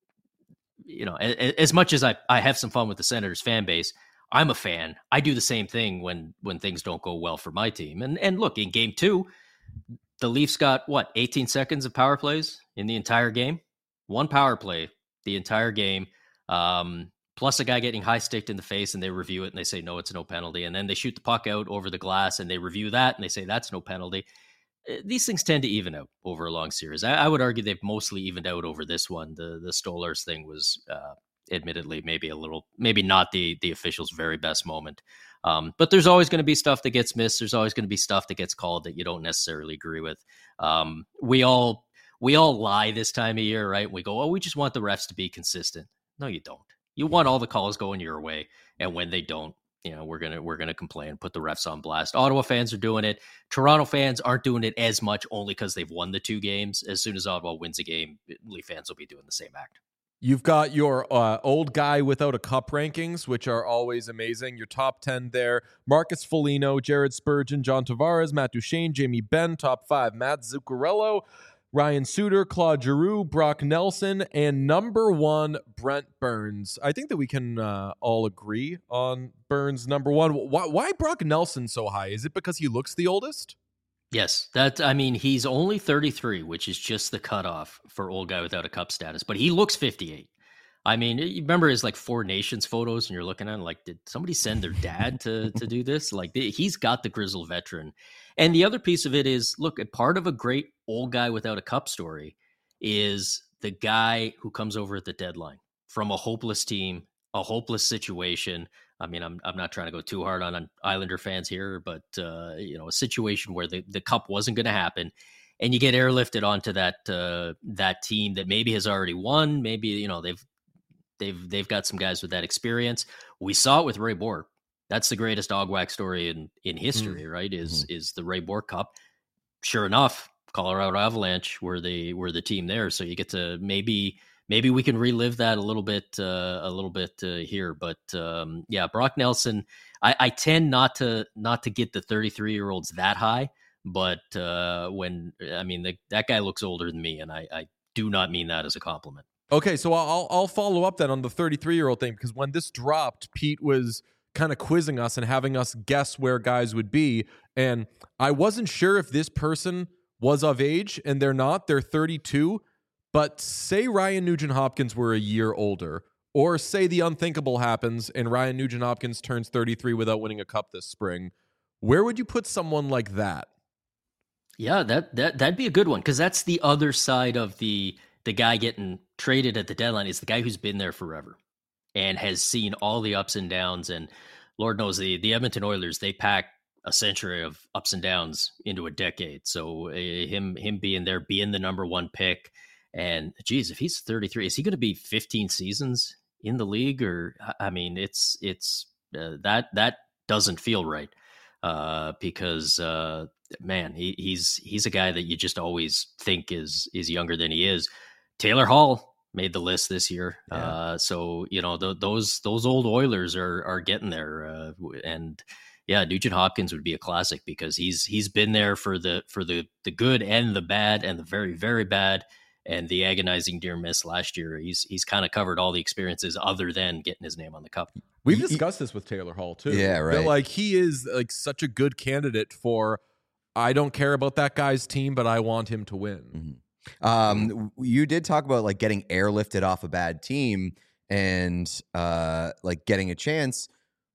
Speaker 6: you know, as, as much as I, I have some fun with the Senators fan base, I'm a fan. I do the same thing when when things don't go well for my team. And and look, in game two, the Leafs got, what, eighteen seconds of power plays in the entire game? One power play the entire game, um, plus a guy getting high-sticked in the face, and they review it, and they say, no, it's no penalty. And then they shoot the puck out over the glass, and they review that, and they say, that's no penalty. These things tend to even out over a long series. I, I would argue they've mostly evened out over this one. The the Stolarz thing was uh, admittedly maybe a little, maybe not the the official's very best moment. Um, but there's always going to be stuff that gets missed. There's always going to be stuff that gets called that you don't necessarily agree with. Um, we all we all lie this time of year, right? We go, oh, we just want the refs to be consistent. No, you don't. You want all the calls going your way, and when they don't, you know, we're gonna we're gonna complain, put the refs on blast. Ottawa fans are doing it. Toronto fans aren't doing it as much, only because they've won the two games. As soon as Ottawa wins a game, Leaf fans will be doing the same act.
Speaker 1: You've got your uh, old guy without a cup rankings, which are always amazing. Your top ten there: Marcus Foligno, Jared Spurgeon, John Tavares, Matt Duchene, Jamie Benn. Top five: Matt Zuccarello, Ryan Suter, Claude Giroux, Brock Nelson, and number one, Brent Burns. I think that we can uh, all agree on Burns number one. Why, why Brock Nelson so high? Is it because he looks the oldest?
Speaker 6: Yes, that I mean, he's only thirty-three, which is just the cutoff for old guy without a cup status, but he looks fifty-eight. I mean, you remember his like Four Nations photos, and you're looking at it like, did somebody send their dad to to do this? Like, he's got the grizzled veteran. And the other piece of it is, look, a part of a great old guy without a cup story is the guy who comes over at the deadline from a hopeless team, a hopeless situation. I mean, I'm I'm not trying to go too hard on, on Islander fans here, but uh, you know, a situation where the, the cup wasn't going to happen, and you get airlifted onto that uh, that team that maybe has already won. Maybe, you know, they've they've they've got some guys with that experience. We saw it with Ray Bourque. That's the greatest dogwack story in, in history, mm. right? Is mm-hmm. is the Ray Bourque Cup. Sure enough, Colorado Avalanche were the were the team there. So you get to maybe maybe we can relive that a little bit uh, a little bit uh, here. But um, yeah, Brock Nelson. I, I tend not to not to get the thirty-three year olds that high, but uh, when I mean the, that guy looks older than me, and I, I do not mean that as a compliment.
Speaker 1: Okay, so I'll I'll follow up then on the thirty-three year old thing, because when this dropped, Pete was kind of quizzing us and having us guess where guys would be. And I wasn't sure if this person was of age, and they're not. They're thirty-two. But say Ryan Nugent-Hopkins were a year older, or say the unthinkable happens and Ryan Nugent-Hopkins turns thirty-three without winning a cup this spring. Where would you put someone like that?
Speaker 6: Yeah, that that that'd be a good one, because that's the other side of the the guy getting traded at the deadline, is the guy who's been there forever and has seen all the ups and downs. And Lord knows the, the Edmonton Oilers, they pack a century of ups and downs into a decade. So uh, him him being there, being the number one pick, and geez, if he's thirty-three, is he going to be fifteen seasons in the league? Or I mean, it's it's uh, that that doesn't feel right, uh, because uh, man, he, he's he's a guy that you just always think is is younger than he is. Taylor Hall made the list this year. Yeah. Uh, so, you know, th- those those old Oilers are are getting there. Uh, and yeah, Nugent-Hopkins would be a classic, because he's he's been there for the for the the good and the bad and the very, very bad and the agonizing near miss last year. He's he's kind of covered all the experiences other than getting his name on the cup.
Speaker 1: We've discussed this with Taylor Hall too.
Speaker 2: Yeah, right.
Speaker 1: That, like, he is like such a good candidate for, I don't care about that guy's team, but I want him to win.
Speaker 2: Mm-hmm. Um, you did talk about like getting airlifted off a bad team and uh, like getting a chance.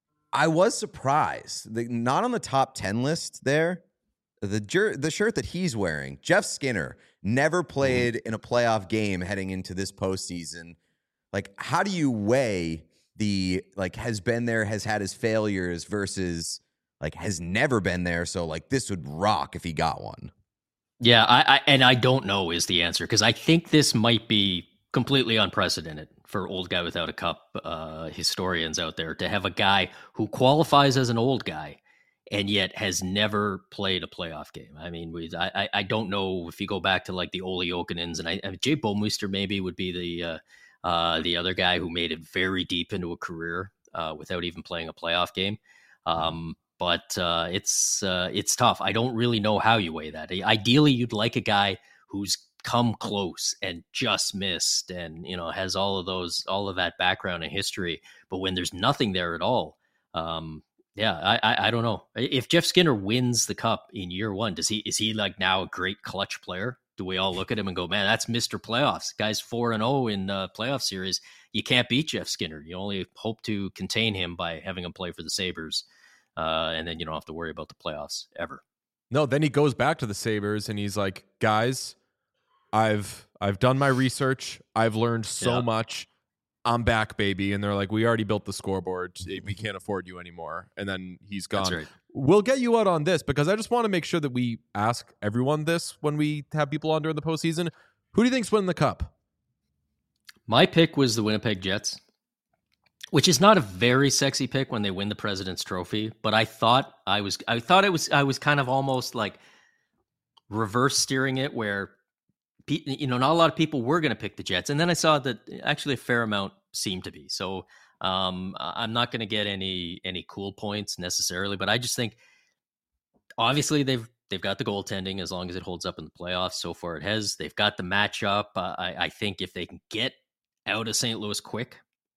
Speaker 2: I was surprised. The, not on the top ten list there. The jer- the shirt that he's wearing, Jeff Skinner, never played in a playoff game heading into this postseason. Like, how do you weigh the like has been there, has had his failures versus like has never been there? So like this would rock if he got one.
Speaker 6: Yeah, I, I and I don't know is the answer, because I think this might be completely unprecedented for old guy without a cup uh, historians out there to have a guy who qualifies as an old guy and yet has never played a playoff game. I mean, we I I don't know if you go back to like the Ole Jokinens and I, I Jay Bomeister maybe would be the uh, uh, the other guy who made it very deep into a career uh, without even playing a playoff game. Um, but uh, it's uh, it's tough. I don't really know how you weigh that. Ideally, you'd like a guy who's come close and just missed and, you know, has all of those, all of that background and history. But when there's nothing there at all, um, yeah, I, I, I don't know. If Jeff Skinner wins the cup in year one, does he, is he like now a great clutch player? Do we all look at him and go, man, that's Mister Playoffs. Guy's four and oh in uh, playoff series. You can't beat Jeff Skinner. You only hope to contain him by having him play for the Sabres. Uh, and then you don't have to worry about the playoffs ever.
Speaker 1: No, then he goes back to the Sabres and he's like, guys, I've I've done my research. I've learned so
Speaker 6: yeah.
Speaker 1: much. I'm back, baby. And they're like, we already built the scoreboard. We can't afford you anymore. And then he's gone.
Speaker 6: That's right.
Speaker 1: We'll get you out on this because I just want to make sure that we ask everyone this when we have people on during the postseason. Who do you think's winning the cup?
Speaker 6: My pick was the Winnipeg Jets, which is not a very sexy pick when they win the President's Trophy. But I thought I was, I thought it was, I was kind of almost like reverse steering it where, you know, not a lot of people were going to pick the Jets. And then I saw that actually a fair amount seemed to be. So um, I'm not going to get any any cool points necessarily, but I just think obviously they've they've got the goaltending as long as it holds up in the playoffs. So far it has. They've got the matchup. Uh, I, I think if they can get out of Saint Louis quick,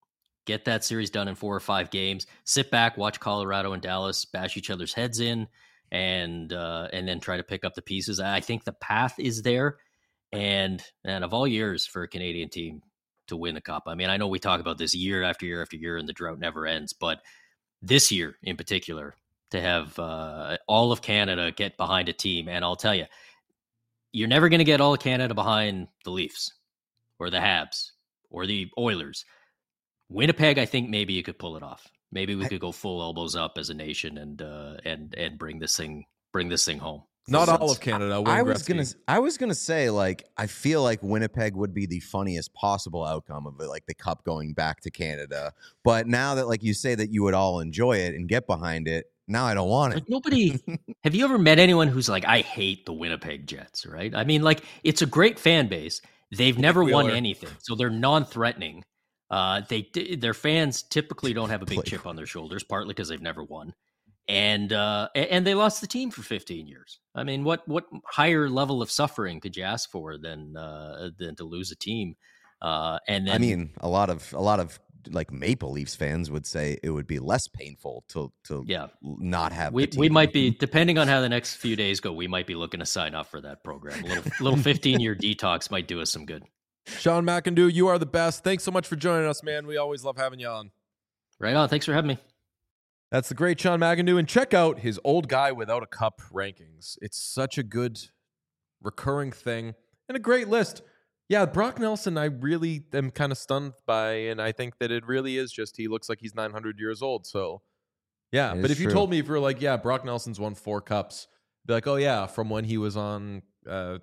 Speaker 6: get that series done in four or five games, sit back, watch Colorado and Dallas bash each other's heads in, and uh, and then try to pick up the pieces. I think the path is there. And and of all years for a Canadian team to win the cup, I mean, I know we talk about this year after year after year and the drought never ends, but this year in particular, to have uh, all of Canada get behind a team, and I'll tell you, you're never going to get all of Canada behind the Leafs or the Habs or the Oilers. Winnipeg, I think maybe you could pull it off. Maybe we could go full elbows up as a nation and uh, and and bring this thing bring this thing home.
Speaker 1: Not all of Canada.
Speaker 2: I was gonna, I was gonna say, like, I feel like Winnipeg would be the funniest possible outcome of it, like the cup going back to Canada. But now that, like, you say that you would all enjoy it and get behind it, now I don't want it.
Speaker 6: Like nobody. Have you ever met anyone who's like, I hate the Winnipeg Jets? Right? I mean, like, it's a great fan base. They've never won anything, so they're non-threatening. Uh, they their fans typically don't have a big chip on their shoulders, partly because they've never won. And uh, and they lost the team for fifteen years. I mean, what what higher level of suffering could you ask for than uh, than to lose a team? Uh, and then,
Speaker 2: I mean, a lot of a lot of like Maple Leafs fans would say it would be less painful to to
Speaker 6: yeah.
Speaker 2: not have.
Speaker 6: We
Speaker 2: the team.
Speaker 6: we might be, depending on how the next few days go, we might be looking to sign up for that program. A little little fifteen year detox might do us some good.
Speaker 1: Sean McIndoe, you are the best. Thanks so much for joining us, man. We always love having you on.
Speaker 6: Right on. Thanks for having me.
Speaker 1: That's the great Sean McIndoe. And check out his Old Guy Without a Cup rankings. It's such a good recurring thing and a great list. Yeah, Brock Nelson, I really am kind of stunned by, and I think that it really is just he looks like he's nine hundred years old. So, yeah.
Speaker 2: It
Speaker 1: but
Speaker 2: is
Speaker 1: if you
Speaker 2: true.
Speaker 1: told me, if you were like, yeah, Brock Nelson's won four cups, I'd be like, oh, yeah, from when he was on uh,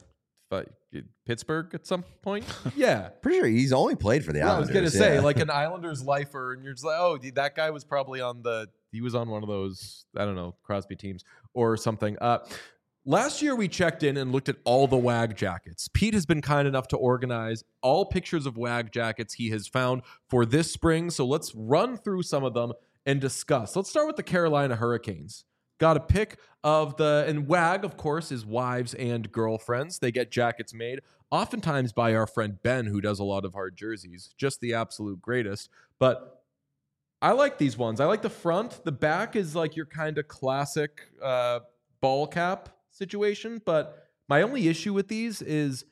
Speaker 1: Pittsburgh at some point? Yeah.
Speaker 2: Pretty sure he's only played for the
Speaker 1: Yeah, I
Speaker 2: Islanders.
Speaker 1: was going to say,
Speaker 2: yeah.
Speaker 1: like an Islanders lifer, and you're just like, oh, that guy was probably on the, he was on one of those, I don't know, Crosby teams or something. Uh, last year, we checked in and looked at all the W A G jackets. Pete has been kind enough to organize all pictures of W A G jackets he has found for this spring. So let's run through some of them and discuss. Let's start with the Carolina Hurricanes. Got a pic of the, and W A G, of course, is wives and girlfriends. They get jackets made, oftentimes by our friend Ben, who does a lot of hard jerseys. Just the absolute greatest. But I like these ones. I like the front. The back is like your kind of classic uh, ball cap situation. But my only issue with these is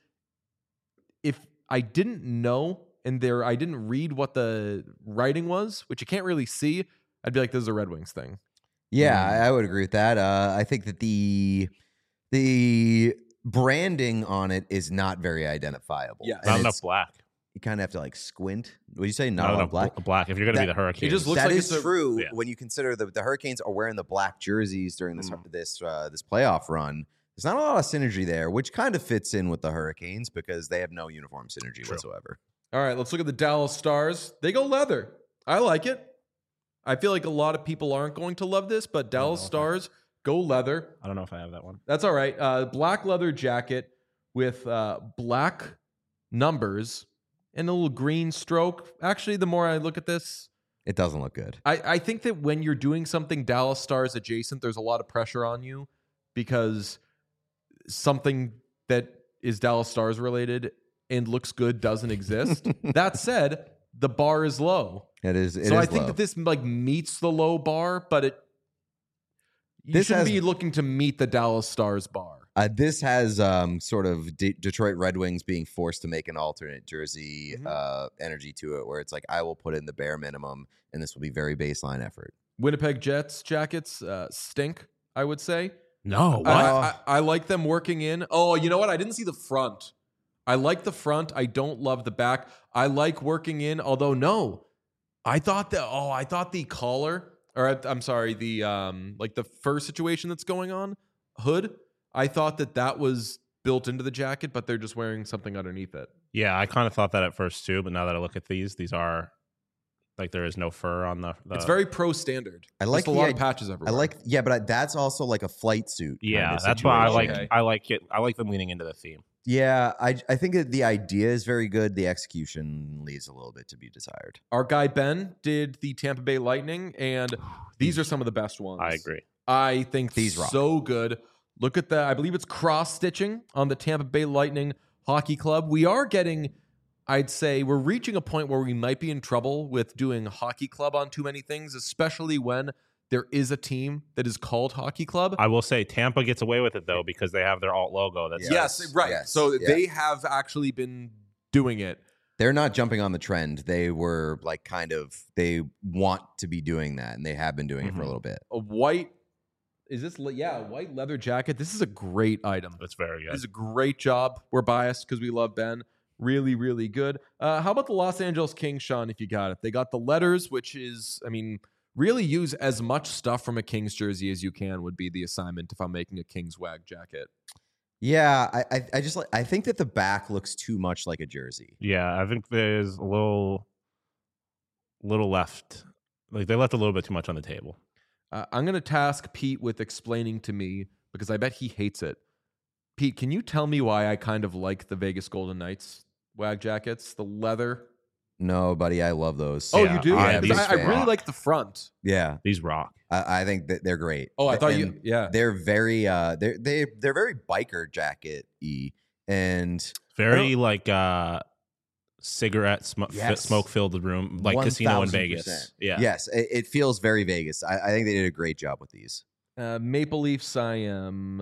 Speaker 1: if I didn't know and there I didn't read what the writing was, which you can't really see, I'd be like, this is a Red Wings thing.
Speaker 2: Yeah, I I would agree with that. Uh, I think that the the branding on it is not very identifiable.
Speaker 1: Yeah.
Speaker 2: And
Speaker 3: Not
Speaker 2: it's-
Speaker 3: enough black.
Speaker 2: You kind of have to like squint. What do you say? Not,
Speaker 3: Not
Speaker 2: enough
Speaker 3: enough
Speaker 2: black.
Speaker 3: black. black. If you're going to be
Speaker 2: That-
Speaker 3: the Hurricanes,
Speaker 1: it just looks
Speaker 2: That
Speaker 1: like
Speaker 2: is
Speaker 1: it's a-
Speaker 2: true
Speaker 3: yeah.
Speaker 2: when you consider the, the Hurricanes are wearing the black jerseys during this
Speaker 3: Mm.
Speaker 2: this uh, this playoff run. There's not a lot of synergy there, which kind of fits in with the Hurricanes because they have no uniform synergy
Speaker 3: True.
Speaker 2: whatsoever.
Speaker 1: All right, let's look at the Dallas Stars. They go leather. I like it. I feel like a lot of people aren't going to love this, but Dallas
Speaker 3: know if I-
Speaker 1: Stars go leather.
Speaker 3: I don't know if I have that one.
Speaker 1: That's all right. Uh, black leather jacket with uh, black numbers and a little green stroke. Actually, the more I look at this,
Speaker 2: It doesn't look good.
Speaker 1: I, I think that when you're doing something Dallas Stars adjacent, there's a lot of pressure on you because something that is Dallas Stars related and looks good doesn't exist. That said, the bar is low.
Speaker 2: It is. It
Speaker 1: so
Speaker 2: is
Speaker 1: I think
Speaker 2: low.
Speaker 1: that this like meets the low bar, but it you
Speaker 2: This
Speaker 1: shouldn't
Speaker 2: has-
Speaker 1: be looking to meet the Dallas Stars bar.
Speaker 2: Uh, this has um, sort of D- Detroit Red Wings being forced to make an alternate jersey
Speaker 1: Mhm.
Speaker 2: uh, energy to it, where it's like, I will put in the bare minimum, and this will be very baseline effort.
Speaker 1: Winnipeg Jets jackets uh, stink, I would say.
Speaker 3: No, what?
Speaker 1: I, I, I like them working in. Oh, you know what? I didn't see the front. I like the front. I don't love the back. I like working in, although no. I thought that, oh, I thought the collar, or I- I'm sorry, the um, like the fur situation that's going on, hood, I thought that that was built into the jacket, but they're just wearing something underneath it.
Speaker 3: Yeah, I kind of thought that at first too, but now that I look at these, these are like there is no fur on the. the
Speaker 1: It's very pro standard.
Speaker 2: I like
Speaker 1: Just a
Speaker 2: the
Speaker 1: lot
Speaker 2: id-
Speaker 1: of patches
Speaker 2: I
Speaker 1: everywhere.
Speaker 2: like, yeah, but I, that's also like a flight suit. kind
Speaker 3: yeah.
Speaker 2: of
Speaker 3: That's why I like.
Speaker 2: situation.
Speaker 1: Okay.
Speaker 3: I like it. I like them leaning into the theme.
Speaker 2: Yeah, I I think that the idea is very good. The execution leaves a little bit to be desired.
Speaker 1: Our guy Ben did the Tampa Bay Lightning, and these are some of the best ones.
Speaker 3: I agree.
Speaker 1: I think
Speaker 2: These rock.
Speaker 1: so good. Look at that. I believe it's cross stitching on the Tampa Bay Lightning Hockey Club. We are getting, I'd say, we're reaching a point where we might be in trouble with doing Hockey Club on too many things, especially when there is a team that is called Hockey Club.
Speaker 3: I will say Tampa gets away with it though because they have their alt logo. That's
Speaker 2: Yes.
Speaker 1: yes, right.
Speaker 2: yes,
Speaker 1: so
Speaker 2: yeah.
Speaker 1: they have actually been doing it.
Speaker 2: They're not jumping on the trend. They were like kind of, they want to be doing that, and they have been doing it for a
Speaker 3: Mhm.
Speaker 2: little bit.
Speaker 1: A white, is this, le- yeah, a white leather jacket. This is a great item.
Speaker 3: that's very
Speaker 1: This
Speaker 3: good.
Speaker 1: is a great job. We're biased because we love Ben. Really, really good. Uh, how about the Los Angeles Kings, Sean, if you got it? They got the letters, which is, I mean, really use as much stuff from a Kings jersey as you can would be the assignment if I'm making a Kings wag jacket.
Speaker 2: Yeah, I, I, I just like. I think that the back looks too much like a jersey.
Speaker 3: Yeah, I think there's a little, little left. Like they left a little bit too much on the table.
Speaker 1: Uh, I'm going to task Pete with explaining to me because I bet he hates it. Pete, can you tell me why I kind of like the Vegas Golden Knights wag jackets, the leather?
Speaker 2: No, buddy, I love those.
Speaker 1: Oh,
Speaker 3: Yeah,
Speaker 1: you do?
Speaker 3: I
Speaker 2: am a
Speaker 1: Because
Speaker 2: big
Speaker 1: I, I
Speaker 2: fan.
Speaker 1: really like the front.
Speaker 2: Yeah,
Speaker 3: These rock.
Speaker 2: I, I think that they're great.
Speaker 1: Oh, I thought
Speaker 2: And
Speaker 1: you, yeah.
Speaker 2: They're very, uh, they're they they're very biker jacket y, and
Speaker 3: Very like uh cigarette sm-
Speaker 2: Yes.
Speaker 3: smoke filled room, like casino in
Speaker 2: one thousand
Speaker 3: Vegas.
Speaker 2: percent.
Speaker 3: Yeah.
Speaker 2: yes, it, it feels very Vegas. I, I think they did a great job with these.
Speaker 1: Uh, Maple Leafs, I am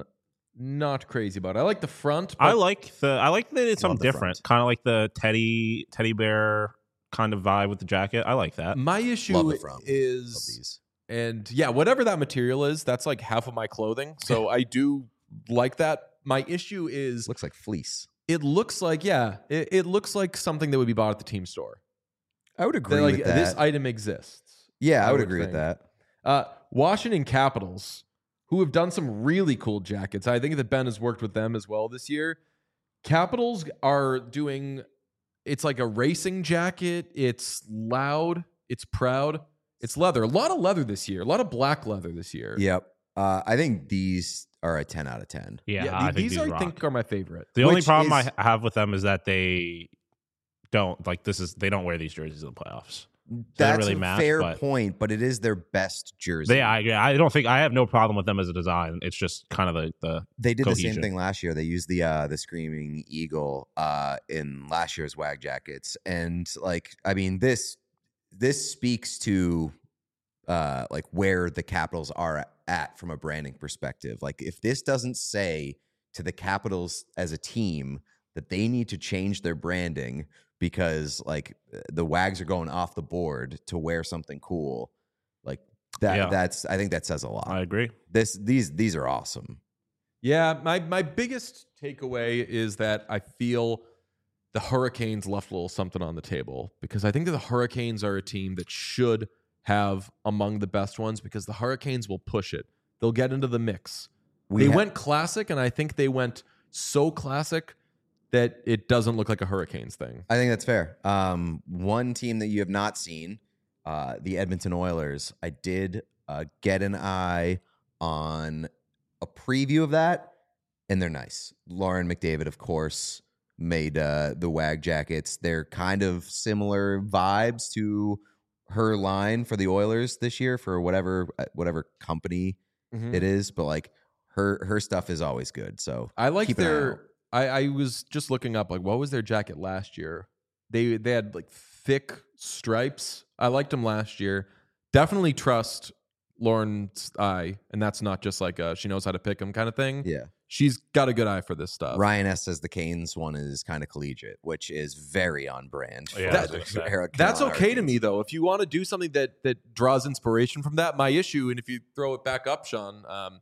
Speaker 1: not crazy about. I like the front.
Speaker 3: I
Speaker 1: but
Speaker 3: like the I like that it's
Speaker 2: Love
Speaker 3: something
Speaker 2: the
Speaker 3: different.
Speaker 2: front.
Speaker 3: Kind of like the teddy teddy bear kind of vibe with the jacket. I like that.
Speaker 1: my issue
Speaker 2: Love the front. Love
Speaker 1: is,
Speaker 2: these.
Speaker 1: and yeah, whatever that material is, that's like half of my clothing. So I do like that. My issue is,
Speaker 2: Looks like fleece.
Speaker 1: it looks like yeah, it, it looks like something that would be bought at the team store.
Speaker 2: I would agree
Speaker 1: That, like
Speaker 2: with that.
Speaker 1: this item exists.
Speaker 2: yeah, I,
Speaker 1: I
Speaker 2: would,
Speaker 1: would
Speaker 2: agree
Speaker 1: think.
Speaker 2: with that.
Speaker 1: Uh, Washington Capitals, who have done some really cool jackets. I think that Ben has worked with them as well this year. Capitals are doing, it's like a racing jacket. It's loud. It's proud. It's leather. A lot of leather this year. A lot of black leather this year.
Speaker 2: Yep. Uh, I think these are a ten out of ten.
Speaker 3: Yeah,
Speaker 1: Yeah,
Speaker 3: I
Speaker 1: the-
Speaker 3: think
Speaker 1: these,
Speaker 3: these,
Speaker 1: I
Speaker 3: rock.
Speaker 1: think are my favorite.
Speaker 3: The only
Speaker 2: Which
Speaker 3: problem
Speaker 2: is-
Speaker 3: I have with them is that they don't like this is they don't wear these jerseys in the playoffs.
Speaker 2: That's
Speaker 3: really
Speaker 2: a
Speaker 3: match,
Speaker 2: fair
Speaker 3: but-
Speaker 2: point, but it is their best jersey.
Speaker 3: They I I don't think I have no problem with them as a design. It's just kind of the the
Speaker 2: They did the
Speaker 3: cohesion.
Speaker 2: same thing last year. They used the uh, the Screaming Eagle uh, in last year's WAG jackets, and like I mean this this speaks to uh, like where the Capitals are at from a branding perspective. Like if this doesn't say to the Capitals as a team that they need to change their branding because like the WAGs are going off the board to wear something cool, like that.
Speaker 3: Yeah.
Speaker 2: That's I think that says a lot.
Speaker 3: I agree.
Speaker 2: This these these are awesome.
Speaker 1: Yeah, my my biggest takeaway is that I feel the Hurricanes left a little something on the table because I think that the Hurricanes are a team that should have among the best ones because the Hurricanes will push it. They'll get into the mix.
Speaker 2: We
Speaker 1: they
Speaker 2: ha-
Speaker 1: went classic, and I think they went so classic that it doesn't look like a Hurricanes thing.
Speaker 2: I think that's fair. Um, one team that you have not seen, uh, the Edmonton Oilers. I did uh, get an eye on a preview of that, and they're nice. Lauren McDavid, of course, made uh, the WAG jackets. They're kind of similar vibes to her line for the Oilers this year for whatever whatever company
Speaker 1: Mhm.
Speaker 2: it is, but like her her stuff is always good. So
Speaker 1: I like
Speaker 2: keep an eye out.
Speaker 1: their. I, I was just looking up like what was their jacket last year. They they had like thick stripes. I liked them last year. Definitely trust Lauren's eye, and that's not just like a, she knows how to pick them kind of thing.
Speaker 2: yeah.
Speaker 1: She's got a good eye for this stuff.
Speaker 2: Ryan S says the Canes one is kind of collegiate, which is very on brand.
Speaker 3: Yeah,
Speaker 2: for
Speaker 3: I was
Speaker 2: the
Speaker 3: gonna say.
Speaker 2: Carolina
Speaker 1: That's okay to
Speaker 2: Hurricanes.
Speaker 1: me though. If you want to do something that that draws inspiration from that, my issue, and if you throw it back up, Sean, um,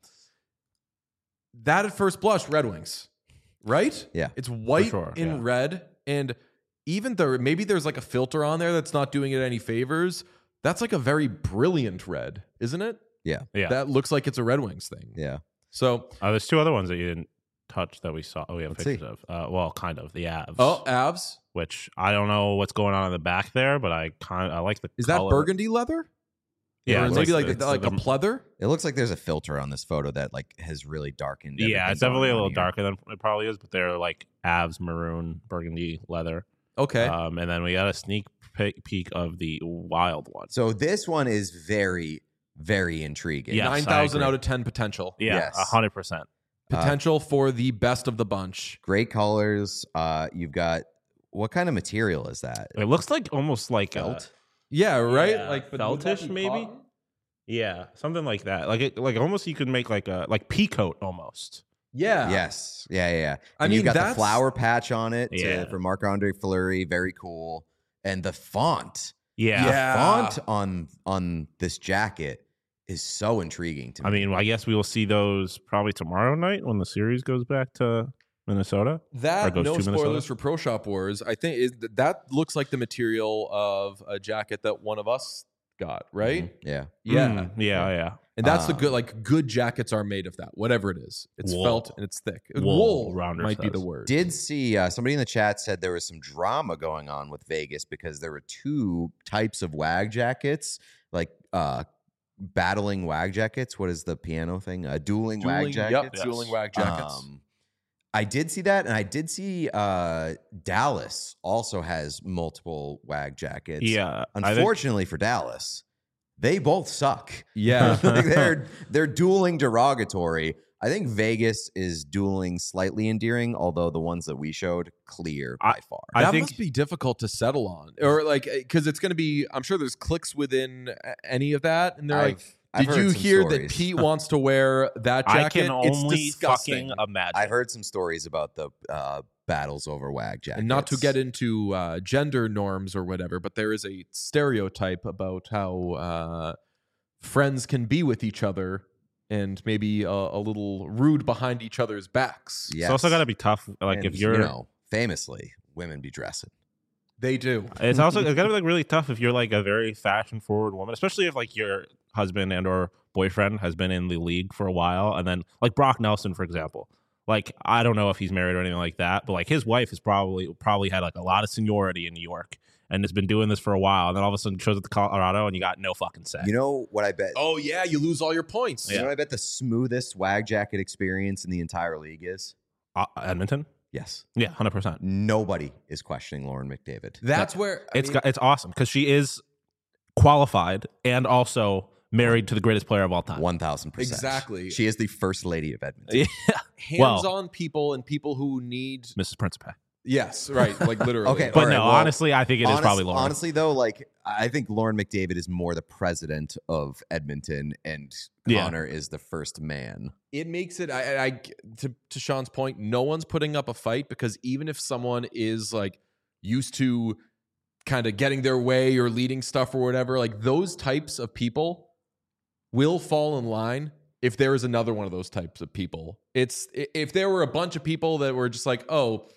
Speaker 1: that at first blush, Red Wings, right?
Speaker 2: Yeah.
Speaker 1: It's white
Speaker 3: sure,
Speaker 1: in
Speaker 3: yeah.
Speaker 1: red, and even though maybe there's like a filter on there that's not doing it any favors, that's like a very brilliant red, isn't it?
Speaker 2: Yeah.
Speaker 3: Yeah.
Speaker 1: That looks like it's a Red Wings thing.
Speaker 2: Yeah.
Speaker 1: So,
Speaker 3: Uh, there's two other ones that you didn't touch that we saw. Oh, we have
Speaker 2: Let's
Speaker 3: pictures
Speaker 2: see.
Speaker 3: of. Uh, well, kind of the Avs.
Speaker 1: oh, Avs,
Speaker 3: which I don't know what's going on in the back there, but I kind I like the.
Speaker 1: is that
Speaker 3: color.
Speaker 1: burgundy leather?
Speaker 3: Yeah,
Speaker 1: or
Speaker 3: it's
Speaker 1: maybe like,
Speaker 3: it's
Speaker 1: like a
Speaker 3: a-
Speaker 1: pleather.
Speaker 2: It looks like there's a filter on this photo that like has really darkened.
Speaker 3: Yeah,
Speaker 2: everything
Speaker 3: it's definitely
Speaker 2: going
Speaker 3: a
Speaker 2: on
Speaker 3: little
Speaker 2: here.
Speaker 3: darker than it probably is, but they're like Avs maroon, burgundy leather.
Speaker 1: Okay.
Speaker 3: Um, and then we got a sneak pe- peek of the wild one.
Speaker 2: So this one is very, very intriguing.
Speaker 3: Yes, I
Speaker 1: Nine thousand
Speaker 3: agree.
Speaker 1: out of ten potential.
Speaker 3: Yeah,
Speaker 2: Yes.
Speaker 3: a hundred percent.
Speaker 1: Potential for the best of the bunch.
Speaker 2: Great colors. Uh, you've got what kind of material is that?
Speaker 3: It looks like almost like a,
Speaker 2: Felt?
Speaker 1: Yeah, right.
Speaker 3: Yeah,
Speaker 1: like but would that
Speaker 3: feltish
Speaker 1: be
Speaker 3: maybe?
Speaker 1: cotton?
Speaker 3: yeah, something like that. Like it, like almost you could make like a like pea coat almost.
Speaker 1: Yeah.
Speaker 2: Yes. Yeah, yeah, yeah.
Speaker 1: I
Speaker 2: And
Speaker 1: mean,
Speaker 2: you've got the
Speaker 1: that's-
Speaker 2: flower patch on it to-
Speaker 3: Yeah.
Speaker 2: for Marc-Andre Fleury. Very cool. And the font.
Speaker 3: Yeah.
Speaker 2: The
Speaker 1: Yeah.
Speaker 2: font on on this jacket is so intriguing to me.
Speaker 3: I mean, I guess we will see those probably tomorrow night when the series goes back to Minnesota. Or
Speaker 1: That
Speaker 3: goes
Speaker 1: no
Speaker 3: to
Speaker 1: spoilers
Speaker 3: Minnesota?
Speaker 1: for Pro Shop Wars. I think is that looks like the material of a jacket that one of us got, right?
Speaker 2: Mhm. Yeah.
Speaker 1: Yeah.
Speaker 3: Mm, yeah, yeah.
Speaker 1: And that's the
Speaker 2: Um,
Speaker 1: good like good jackets are made of that, whatever it is. It's
Speaker 3: Wool.
Speaker 1: felt and it's thick.
Speaker 3: Wool,
Speaker 1: Wool
Speaker 3: Rounder
Speaker 1: might be
Speaker 3: says.
Speaker 1: the word.
Speaker 2: Did see uh, somebody in the chat said there was some drama going on with Vegas because there were two types of WAG jackets, like uh, battling WAG jackets. What is the piano thing? Uh, dueling, WAG
Speaker 1: Dueling-
Speaker 2: jackets.
Speaker 1: Yep,
Speaker 3: Yes.
Speaker 1: dueling WAG jackets.
Speaker 2: Um, I did see that, and I did see uh, Dallas also has multiple WAG jackets.
Speaker 3: Yeah. I think-
Speaker 2: Unfortunately for Dallas, they both suck.
Speaker 1: yeah.
Speaker 2: Like, they're they're dueling derogatory. I think Vegas is dueling slightly endearing, although the ones that we showed clear by far.
Speaker 3: I
Speaker 1: that
Speaker 3: think-
Speaker 1: must be difficult to settle on, or like because it's going to be. I'm sure there's clicks within a- any of that, and they're like,
Speaker 2: I've- I've
Speaker 1: "Did
Speaker 2: heard
Speaker 1: you
Speaker 2: some
Speaker 1: hear that
Speaker 2: stories.
Speaker 1: Pete wants to wear that
Speaker 3: I
Speaker 1: jacket?"
Speaker 3: can only
Speaker 1: it's disgusting.
Speaker 3: fucking imagine.
Speaker 2: I've heard some stories about the uh, battles over WAG jackets.
Speaker 1: And not to get into uh, gender norms or whatever, but there is a stereotype about how uh, friends can be with each other and maybe a, a little rude behind each other's backs.
Speaker 2: Yes.
Speaker 3: It's also got to be tough. Like
Speaker 2: And,
Speaker 3: if you're,
Speaker 2: you know, famously, women be dressing.
Speaker 1: They do.
Speaker 3: it's also it's got to be like really tough if you're like a very fashion forward woman, especially if like your husband and or boyfriend has been in the league for a while, and then like Brock Nelson, for example. Like I don't know if he's married or anything like that, but like his wife has probably probably had like a lot of seniority in New York and has been doing this for a while, and then all of a sudden shows up to Colorado and you got no fucking say.
Speaker 2: You know what I bet?
Speaker 1: Oh yeah, you lose all your points.
Speaker 2: You know what I bet the smoothest WAG jacket experience in the entire league is?
Speaker 3: uh, Edmonton,
Speaker 2: Yes.
Speaker 3: yeah, hundred percent.
Speaker 2: Nobody is questioning Lauren McDavid.
Speaker 1: That's where I
Speaker 3: It's
Speaker 1: mean,
Speaker 3: got, it's awesome because she is qualified and also married to the greatest player of all time.
Speaker 2: one thousand percent.
Speaker 1: Exactly.
Speaker 2: She is the first lady of Edmonton.
Speaker 3: Yeah, well-
Speaker 1: hands-on people and people who need.
Speaker 3: Missus Principe.
Speaker 1: Yes, right. Like literally.
Speaker 2: Okay,
Speaker 3: But
Speaker 2: All right,
Speaker 3: no,
Speaker 2: well,
Speaker 3: honestly, I think it is
Speaker 2: Honest-
Speaker 3: probably Lauren.
Speaker 2: Honestly, though, like I think Lauren McDavid is more the president of Edmonton, and
Speaker 3: Yeah.
Speaker 2: Connor is the first man.
Speaker 1: It makes it. I, I to to Sean's point, no one's putting up a fight because even if someone is like used to kind of getting their way or leading stuff or whatever, like those types of people will fall in line if there is another one of those types of people. It's if there were a bunch of people that were just like, oh,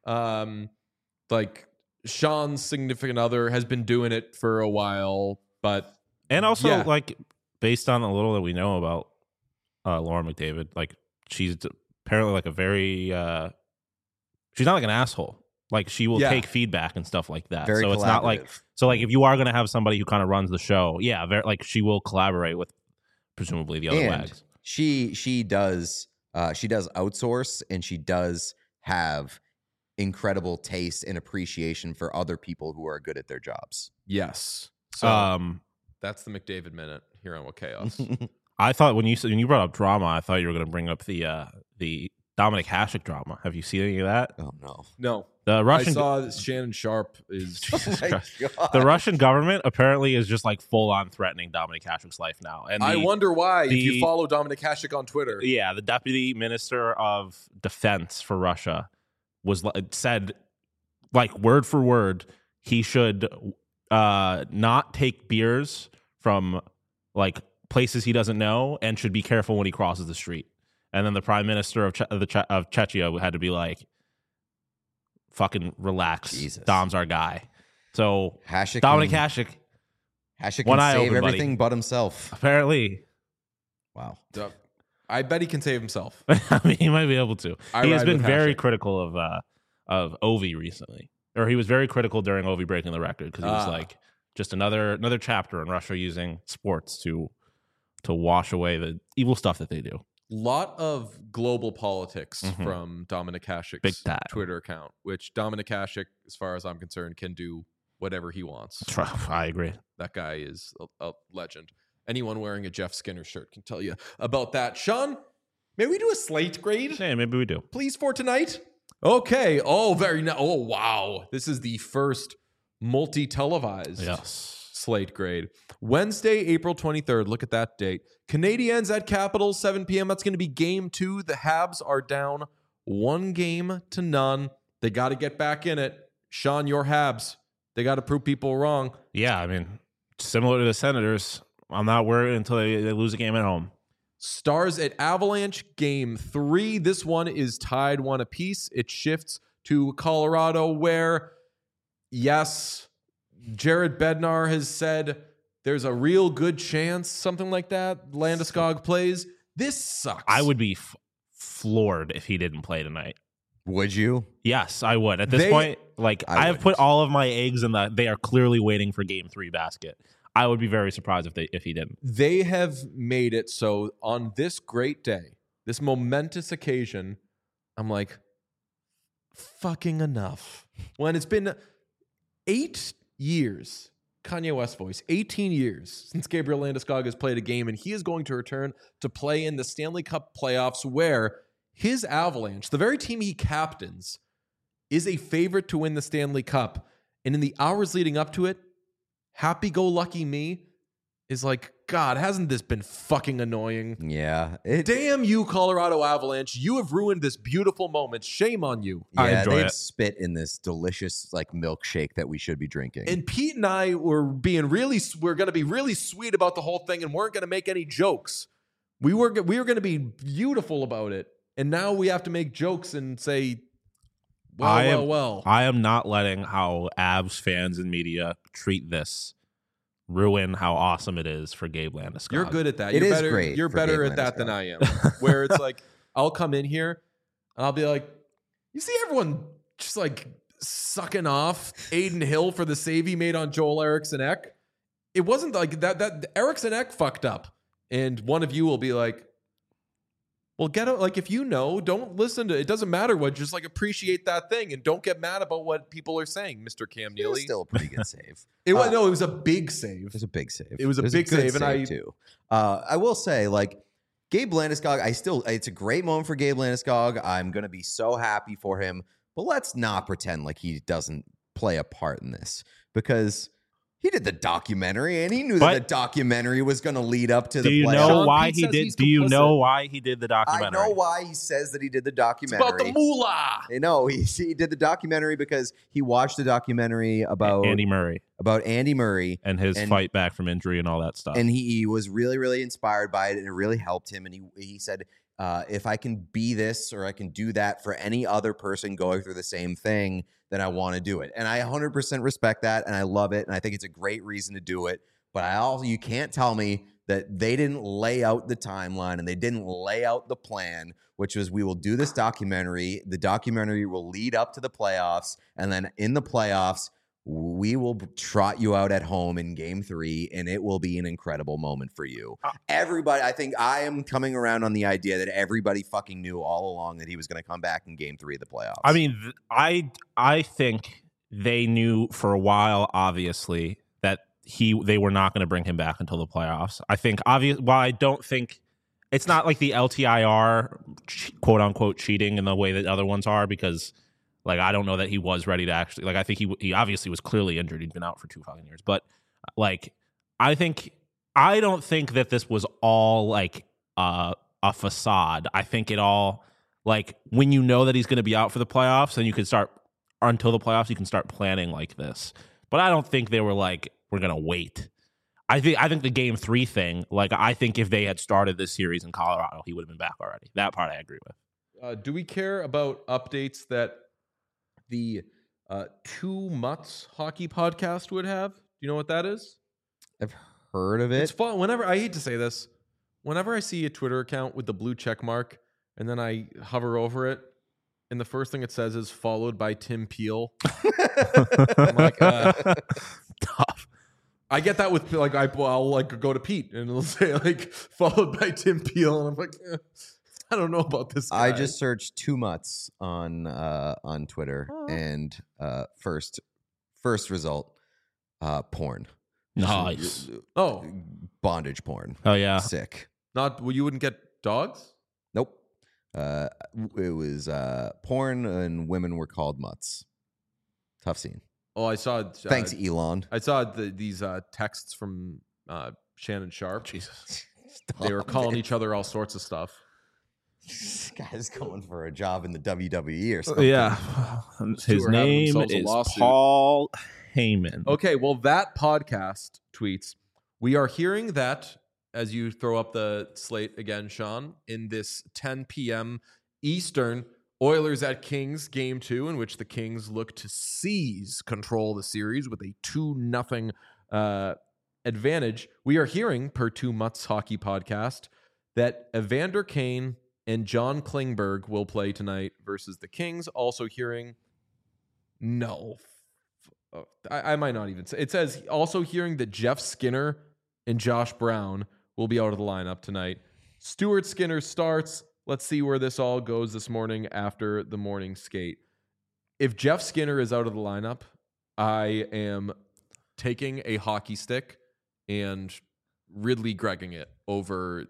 Speaker 1: um, like Sean's significant other has been doing it for a while, but
Speaker 3: And also,
Speaker 1: Yeah.
Speaker 3: like, based on a little that we know about uh, Lauren McDavid, like, she's apparently like a very, uh, she's not like an asshole. Like she will
Speaker 1: Yeah.
Speaker 3: take feedback and stuff like that.
Speaker 2: Very
Speaker 3: so it's not like
Speaker 2: collaborative.
Speaker 3: so like if you are going to have somebody who kind of runs the show, yeah, very, like she will collaborate with presumably the other
Speaker 2: And
Speaker 3: wags.
Speaker 2: she she does uh, she does outsource, and she does have incredible taste and appreciation for other people who are good at their jobs.
Speaker 1: Yes. So
Speaker 3: um,
Speaker 1: that's the McDavid minute here on What Chaos.
Speaker 3: I thought when you said- when you brought up drama, I thought you were going to bring up the uh, the Dominic Hasek drama. Have you seen any of that?
Speaker 2: Oh no!
Speaker 1: No.
Speaker 3: The Russian
Speaker 1: I saw that Shannon Sharp is
Speaker 3: Jesus
Speaker 2: My
Speaker 3: Christ.
Speaker 2: God.
Speaker 3: The Russian government apparently is just like full on threatening Dominic Hasek's life now. And
Speaker 1: I
Speaker 3: the-
Speaker 1: wonder why if
Speaker 3: the-
Speaker 1: you follow Dominic Hasek on Twitter.
Speaker 3: Yeah, the deputy minister of defense for Russia was li- said, like word for word, he should uh, not take beers from like places he doesn't know, and should be careful when he crosses the street. And then the prime minister of che- of, the che- of Czechia had to be like, "Fucking relax,
Speaker 2: Jesus.
Speaker 3: Dom's our guy." So
Speaker 2: Hasek
Speaker 3: Dominic
Speaker 2: can,
Speaker 3: Hasek
Speaker 2: Hasek
Speaker 3: One
Speaker 2: can
Speaker 3: eye
Speaker 2: save
Speaker 3: open, buddy.
Speaker 2: everything but himself.
Speaker 3: apparently,
Speaker 2: Wow.
Speaker 1: Duh. I bet he can save himself.
Speaker 3: I mean, he might be able to.
Speaker 1: I
Speaker 3: he has
Speaker 1: ride
Speaker 3: been
Speaker 1: with
Speaker 3: very
Speaker 1: Hasek.
Speaker 3: critical of uh, of Ovi recently, or he was very critical during Ovi breaking the record because he was
Speaker 1: Ah.
Speaker 3: like just another another chapter in Russia using sports to to wash away the evil stuff that they do.
Speaker 1: Lot of global politics
Speaker 3: Mhm.
Speaker 1: from Dominic Hasek's
Speaker 3: Big time.
Speaker 1: Twitter account, which Dominic Hasek, as far as I'm concerned, can do whatever he wants.
Speaker 3: I agree.
Speaker 1: That guy is a, a legend. Anyone wearing a Jeff Skinner shirt can tell you about that. Sean, may we do a slate grade,
Speaker 3: Yeah, maybe we do.
Speaker 1: please, for tonight? Okay. Oh, very nice. Oh, wow. This is the first multi-televised
Speaker 3: Yes.
Speaker 1: slate grade. Wednesday, April twenty-third. Look at that date. Canadiens at Capitals, seven p.m. That's going to be game two. The Habs are down one game to none. They got to get back in it. Sean, your Habs. They got to prove people wrong.
Speaker 3: Yeah, I mean, similar to the Senators, I'm not worried until they, they lose a game at home.
Speaker 1: Stars at Avalanche, game three. This one is tied one apiece. It shifts to Colorado, where, yes, Jared Bednar has said there's a real good chance, something like that, Landeskog plays. This sucks.
Speaker 3: I would be f- floored if he didn't play tonight.
Speaker 2: Would you?
Speaker 3: Yes, I would. At this
Speaker 1: They-
Speaker 3: point, like
Speaker 2: I
Speaker 3: I, have put
Speaker 2: wouldn't.
Speaker 3: all of my eggs in the they are clearly waiting for game three basket. I would be very surprised if they if he didn't.
Speaker 1: They have made it so on this great day, this momentous occasion, I'm like, fucking enough. When it's been eight years, Kanye West voice, eighteen years since Gabriel Landeskog has played a game, and he is going to return to play in the Stanley Cup playoffs, where his Avalanche, the very team he captains, is a favorite to win the Stanley Cup. And in the hours leading up to it, happy-go-lucky me is like, God, hasn't this been fucking annoying?
Speaker 2: Yeah. It,
Speaker 1: Damn you, Colorado Avalanche. You have ruined this beautiful moment. Shame on you.
Speaker 3: I
Speaker 2: yeah,
Speaker 3: enjoy
Speaker 2: they've
Speaker 3: it.
Speaker 2: spit in this delicious like milkshake that we should be drinking.
Speaker 1: And Pete and I were being really, we're going to be really sweet about the whole thing and weren't going to make any jokes. We were, we were going to be beautiful about it. And now we have to make jokes and say, well,
Speaker 3: I
Speaker 1: well,
Speaker 3: am,
Speaker 1: well.
Speaker 3: I am not letting how Avs fans and media treat this ruin how awesome it is for Gabe Landeskog.
Speaker 1: You're good at that.
Speaker 2: It
Speaker 1: you're
Speaker 2: is
Speaker 1: better,
Speaker 2: great
Speaker 1: You're
Speaker 2: for
Speaker 1: better
Speaker 2: Gabe
Speaker 1: at that than
Speaker 2: Landeskog.
Speaker 1: I am. Where it's like, I'll come in here and I'll be like, you see everyone just like sucking off Aiden Hill for the save he made on Joel Eriksson Ek. It wasn't like that. That Eriksson Ek fucked up, and one of you will be like, well, get out. Like, if you know, don't listen to it. Doesn't matter what, just like appreciate that thing and don't get mad about what people are saying, Mister Cam
Speaker 2: It was
Speaker 1: Neely.
Speaker 2: still a pretty good save.
Speaker 1: It was
Speaker 2: uh,
Speaker 1: no, it was a big save.
Speaker 2: It was a big save.
Speaker 1: It was a big
Speaker 2: good
Speaker 1: save, and I-
Speaker 2: too. Uh, I will say, like Gabe Landeskog, I still it's a great moment for Gabe Landeskog. I'm gonna be so happy for him, but let's not pretend like he doesn't play a part in this because he did the documentary and he knew that
Speaker 3: But-
Speaker 2: the documentary was gonna lead up to
Speaker 3: Do
Speaker 2: the
Speaker 3: you
Speaker 2: playoffs.
Speaker 3: know
Speaker 1: Sean
Speaker 3: why
Speaker 1: Pete
Speaker 3: he
Speaker 1: says
Speaker 3: did?
Speaker 1: he's
Speaker 3: Do you
Speaker 1: complicit.
Speaker 3: know why he did the
Speaker 2: I
Speaker 3: documentary?
Speaker 2: know why he says that he did the
Speaker 1: It's
Speaker 2: documentary.
Speaker 1: about the moolah.
Speaker 2: I know he he did the documentary because he watched the documentary about
Speaker 3: Andy Murray
Speaker 2: about Andy Murray.
Speaker 3: and his
Speaker 2: And-
Speaker 3: fight back from injury and all that stuff.
Speaker 2: and he, he was really really inspired by it and it really helped him and he he said uh, if I can be this or I can do that for any other person going through the same thing, then I want to do it. And I one hundred percent respect that and I love it and I think it's a great reason to do it. But I also you can't tell me that they didn't lay out the timeline and they didn't lay out the plan, which was we will do this documentary. The documentary will lead up to the playoffs. And then in the playoffs, we will trot you out at home in game three, and it will be an incredible moment for you. Uh, everybody, I think I am coming around on the idea that everybody fucking knew all along that he was going to come back in game three of the playoffs.
Speaker 3: I mean, th- I, I think they knew for a while, obviously, that he they were not going to bring him back until the playoffs. I think, obvious. While I don't think it's not like the L T I R quote unquote cheating in the way that other ones are, because like I don't know that he was ready to actually like. I think he he obviously was clearly injured. He'd been out for two fucking years, but like I think I don't think that this was all like uh, a facade. I think it all like when you know that he's going to be out for the playoffs, then you can start until the playoffs. You can start planning like this. But I don't think they were like, we're going to wait. I think I think the game three thing, like I think if they had started this series in Colorado, he would have been back already. That part I agree with.
Speaker 1: Uh, do we care about updates that the uh, Two Mutts hockey podcast would have? Do you know what that is?
Speaker 2: I've heard of it.
Speaker 1: It's fun. Whenever I hate to say this, whenever I see a Twitter account with the blue check mark and then I hover over it, and the first thing it says is followed by Tim Peel. I'm like, uh, tough. I get that with like I, I'll like go to Pete and it'll say like followed by Tim Peel, and I'm like, eh, I don't know about this guy.
Speaker 2: I just searched Two Mutts on uh, on Twitter, oh. and uh, first first result, uh, porn.
Speaker 3: Nice.
Speaker 1: Oh,
Speaker 2: bondage porn.
Speaker 3: Oh yeah,
Speaker 2: sick.
Speaker 1: Not well, you wouldn't get dogs.
Speaker 2: Nope. Uh, it was uh, porn and women were called mutts. Tough scene.
Speaker 1: Oh, I saw. Uh,
Speaker 2: Thanks, Elon.
Speaker 1: I saw the, these uh, texts from uh, Shannon Sharp.
Speaker 3: Jesus,
Speaker 1: they were calling it. each other all sorts of stuff.
Speaker 2: This guy's going for a job in the W W E or something.
Speaker 3: Yeah, his name is Paul Heyman.
Speaker 1: Okay, well, that podcast tweets. We are hearing that. As you throw up the slate again, Sean, in this ten p.m. Eastern Oilers at Kings game two, in which the Kings look to seize control of the series with a two nothing uh, advantage. We are hearing, per Two Mutts Hockey Podcast, that Evander Kane and John Klingberg will play tonight versus the Kings. Also hearing, no, I, I might not even say. It says also hearing that Jeff Skinner and Josh Brown will be out of the lineup tonight. Stuart Skinner starts. Let's see where this all goes this morning after the morning skate. If Jeff Skinner is out of the lineup, I am taking a hockey stick and Ridley Gregging it over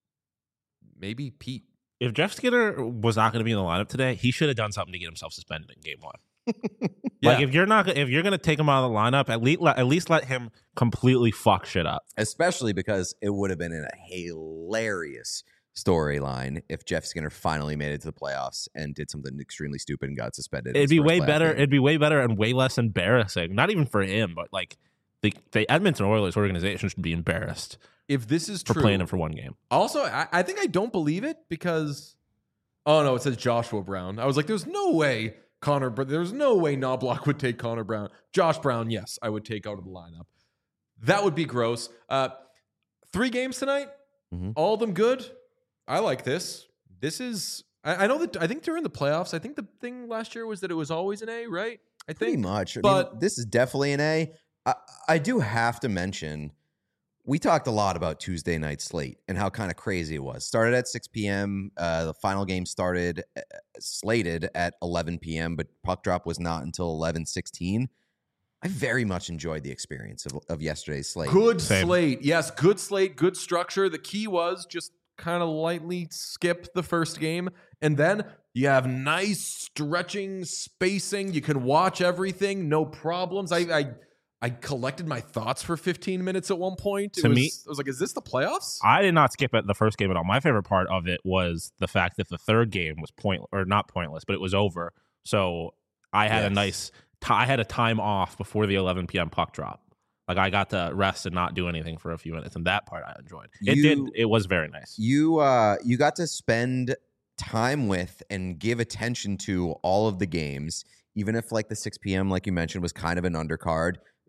Speaker 1: maybe Pete.
Speaker 3: If Jeff Skinner was not going to be in the lineup today, he should have done something to get himself suspended in game one.
Speaker 1: Yeah.
Speaker 3: Like if you're not if you're gonna take him out of the lineup, at least let, at least let him completely fuck shit up.
Speaker 2: Especially because it would have been in a hilarious storyline if Jeff Skinner finally made it to the playoffs and did something extremely stupid and got suspended.
Speaker 3: It'd be way better. Game. It'd be way better and way less embarrassing. Not even for him, but like the the Edmonton Oilers organization should be embarrassed
Speaker 1: if this is
Speaker 3: for
Speaker 1: true,
Speaker 3: playing him for one game.
Speaker 1: Also, I, I think I don't believe it because oh no, it says Joshua Brown. I was like, there's no way. Connor, but there's no way Knobloch would take Connor Brown. Josh Brown, yes, I would take out of the lineup. That would be gross. Uh, three games tonight, mm-hmm. all of them good. I like this. This is, I, I know that, I think during the playoffs, I think the thing last year was that it was always an A, right? I think.
Speaker 2: Pretty much. I
Speaker 1: but
Speaker 2: mean, this is definitely an A. I, I do have to mention, we talked a lot about Tuesday night slate and how kind of crazy it was. Started at six p.m. Uh, the final game started uh, slated at eleven p.m., but puck drop was not until eleven sixteen. I very much enjoyed the experience of, of yesterday's slate.
Speaker 1: Good
Speaker 3: Same.
Speaker 1: slate. Yes, good slate, good structure. The key was just kind of lightly skip the first game, and then you have nice stretching, spacing. You can watch everything, no problems. I... I I collected my thoughts for fifteen minutes at one point. It
Speaker 3: to
Speaker 1: was,
Speaker 3: me,
Speaker 1: I was like, is this the playoffs?
Speaker 3: I did not skip at the first game at all. My favorite part of it was the fact that the third game was point or not pointless, but it was over. So I had yes. a nice, t- I had a time off before the eleven p.m. puck drop. Like I got to rest and not do anything for a few minutes, and that part I enjoyed. It you, did. It was very nice.
Speaker 2: You, uh, you got to spend time with and give attention to all of the games, even if like the six p.m. like you mentioned was kind of an undercard.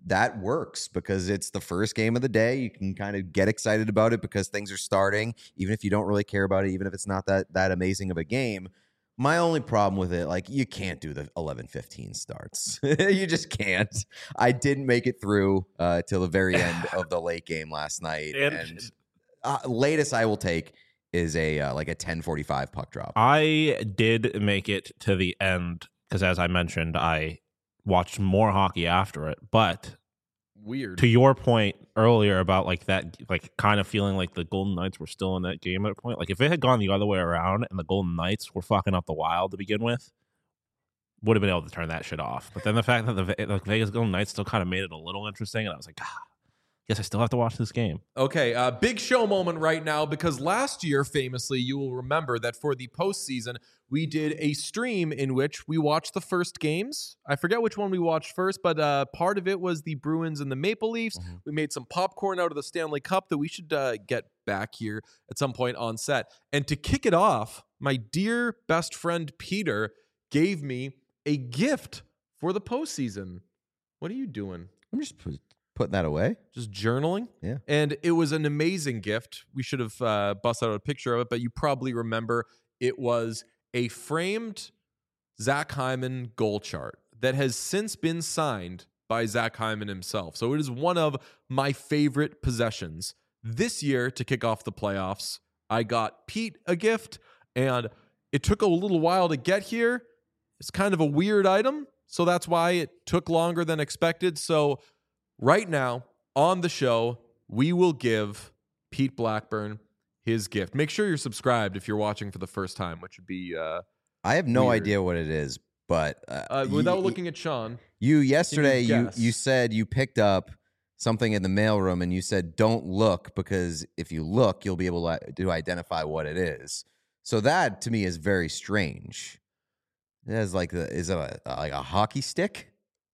Speaker 2: that works because it's the first game of the day. You can kind of get excited about it because things are starting, even if you don't really care about it, even if it's not that that amazing of a game. My only problem with it, like, you can't do the eleven fifteen starts. You just can't. I didn't make it through uh, till the very end of the late game last night.
Speaker 3: And-
Speaker 2: and uh, latest I will take is a uh, like a ten forty-five puck drop.
Speaker 3: I did make it to the end because, as I mentioned, I watched more hockey after it. But
Speaker 1: Weird.
Speaker 3: to your point earlier about like that, like kind of feeling like the Golden Knights were still in that game at a point. Like if it had gone the other way around and the Golden Knights were fucking up the Wild to begin with, would have been able to turn that shit off. But then the fact that the Ve- like Vegas Golden Knights still kind of made it a little interesting, and I was like, ah, guess I still have to watch this game.
Speaker 1: Okay, uh, big show moment right now because last year, famously, you will remember that for the postseason, we did a stream in which we watched the first games. I forget which one we watched first, but uh, part of it was the Bruins and the Maple Leafs. Mm-hmm. We made some popcorn out of the Stanley Cup that we should uh, get back here at some point on set. And to kick it off, my dear best friend Peter gave me a gift for the postseason. What are you doing?
Speaker 2: I'm just put, putting that away.
Speaker 1: Just journaling?
Speaker 2: Yeah.
Speaker 1: And it was an amazing gift. We should have uh, busted out a picture of it, but you probably remember it was a framed Zach Hyman goal chart that has since been signed by Zach Hyman himself. So it is one of my favorite possessions. This year, to kick off the playoffs, I got Pete a gift, and it took a little while to get here. It's kind of a weird item, so that's why it took longer than expected. So right now, on the show, we will give Pete Blackburn his gift. Make sure you're subscribed if you're watching for the first time, which would be uh,
Speaker 2: I have no
Speaker 1: weird.
Speaker 2: idea what it is, but uh,
Speaker 1: uh, without looking at Sean.
Speaker 2: You yesterday
Speaker 1: you
Speaker 2: you
Speaker 1: guess?
Speaker 2: you said you picked up something in the mailroom and you said don't look because if you look you'll be able to, to identify what it is. So that to me is very strange. It has like the is it a, like a hockey stick?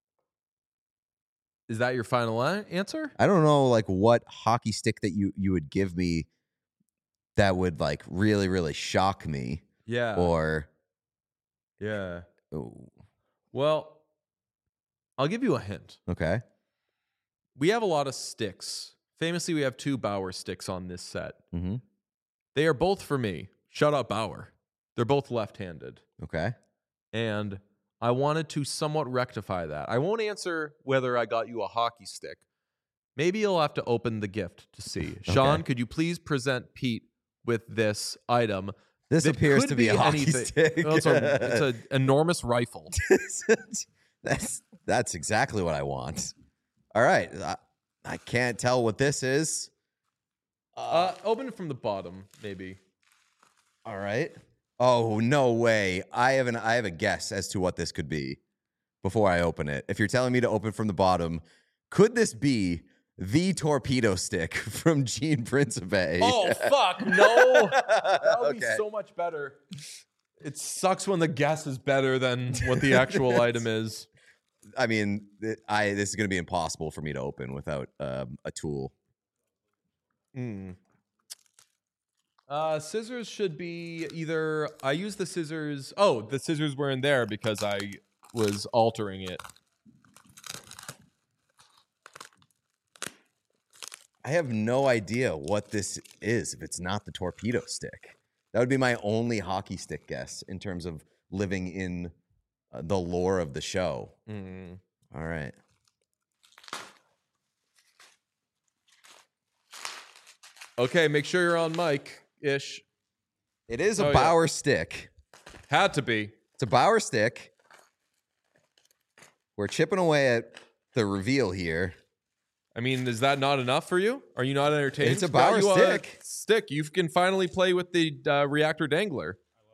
Speaker 1: Is that your final a- answer?
Speaker 2: I don't know like what hockey stick that you you would give me that would like really really shock me
Speaker 1: Yeah.
Speaker 2: or
Speaker 1: yeah.
Speaker 2: oh,
Speaker 1: Well, I'll give you a hint.
Speaker 2: okay.
Speaker 1: We have a lot of sticks. Famously, we have two Bauer sticks on this set.
Speaker 2: Mm-hmm.
Speaker 1: They are both for me. Shut up, Bauer. They're both left-handed.
Speaker 2: Okay.
Speaker 1: And I wanted to somewhat rectify that. I won't answer whether I got you a hockey stick. Maybe you'll have to open the gift to see. Sean, could you please present Pete with this item?
Speaker 2: This
Speaker 1: that
Speaker 2: appears
Speaker 1: could
Speaker 2: to be a hockey
Speaker 1: anything.
Speaker 2: stick.
Speaker 1: Well, it's a, it's an enormous rifle.
Speaker 2: that's that's exactly what I want. All right, I, I can't tell what this is.
Speaker 1: Uh, open it from the bottom, maybe.
Speaker 2: All right. Oh no way! I have an I have a guess as to what this could be before I open it. If you're telling me to open from the bottom, could this be the torpedo stick from Gene Principe?
Speaker 1: Oh fuck no! That would be
Speaker 2: Okay.
Speaker 1: so much better. It sucks when the guess is better than what the actual item is.
Speaker 2: I mean, th- I this is going to be impossible for me to open without um, a tool.
Speaker 1: Mm. Uh, scissors should be either. I use the scissors. Oh, the scissors were in there because I was altering it.
Speaker 2: I have no idea what this is if it's not the torpedo stick. That would be my only hockey stick guess in terms of living in uh, the lore of the show.
Speaker 1: Mm.
Speaker 2: All right.
Speaker 1: Okay, make sure you're on mic ish.
Speaker 2: It is a
Speaker 1: Oh, yeah.
Speaker 2: Bauer stick.
Speaker 1: Had to be.
Speaker 2: It's a Bauer stick. We're chipping away at the reveal here.
Speaker 1: I mean, is that not enough for you? Are you not entertained?
Speaker 2: It's a
Speaker 1: Got
Speaker 2: Bauer
Speaker 1: you
Speaker 2: stick.
Speaker 1: Stick. You can finally play with the uh, reactor dangler.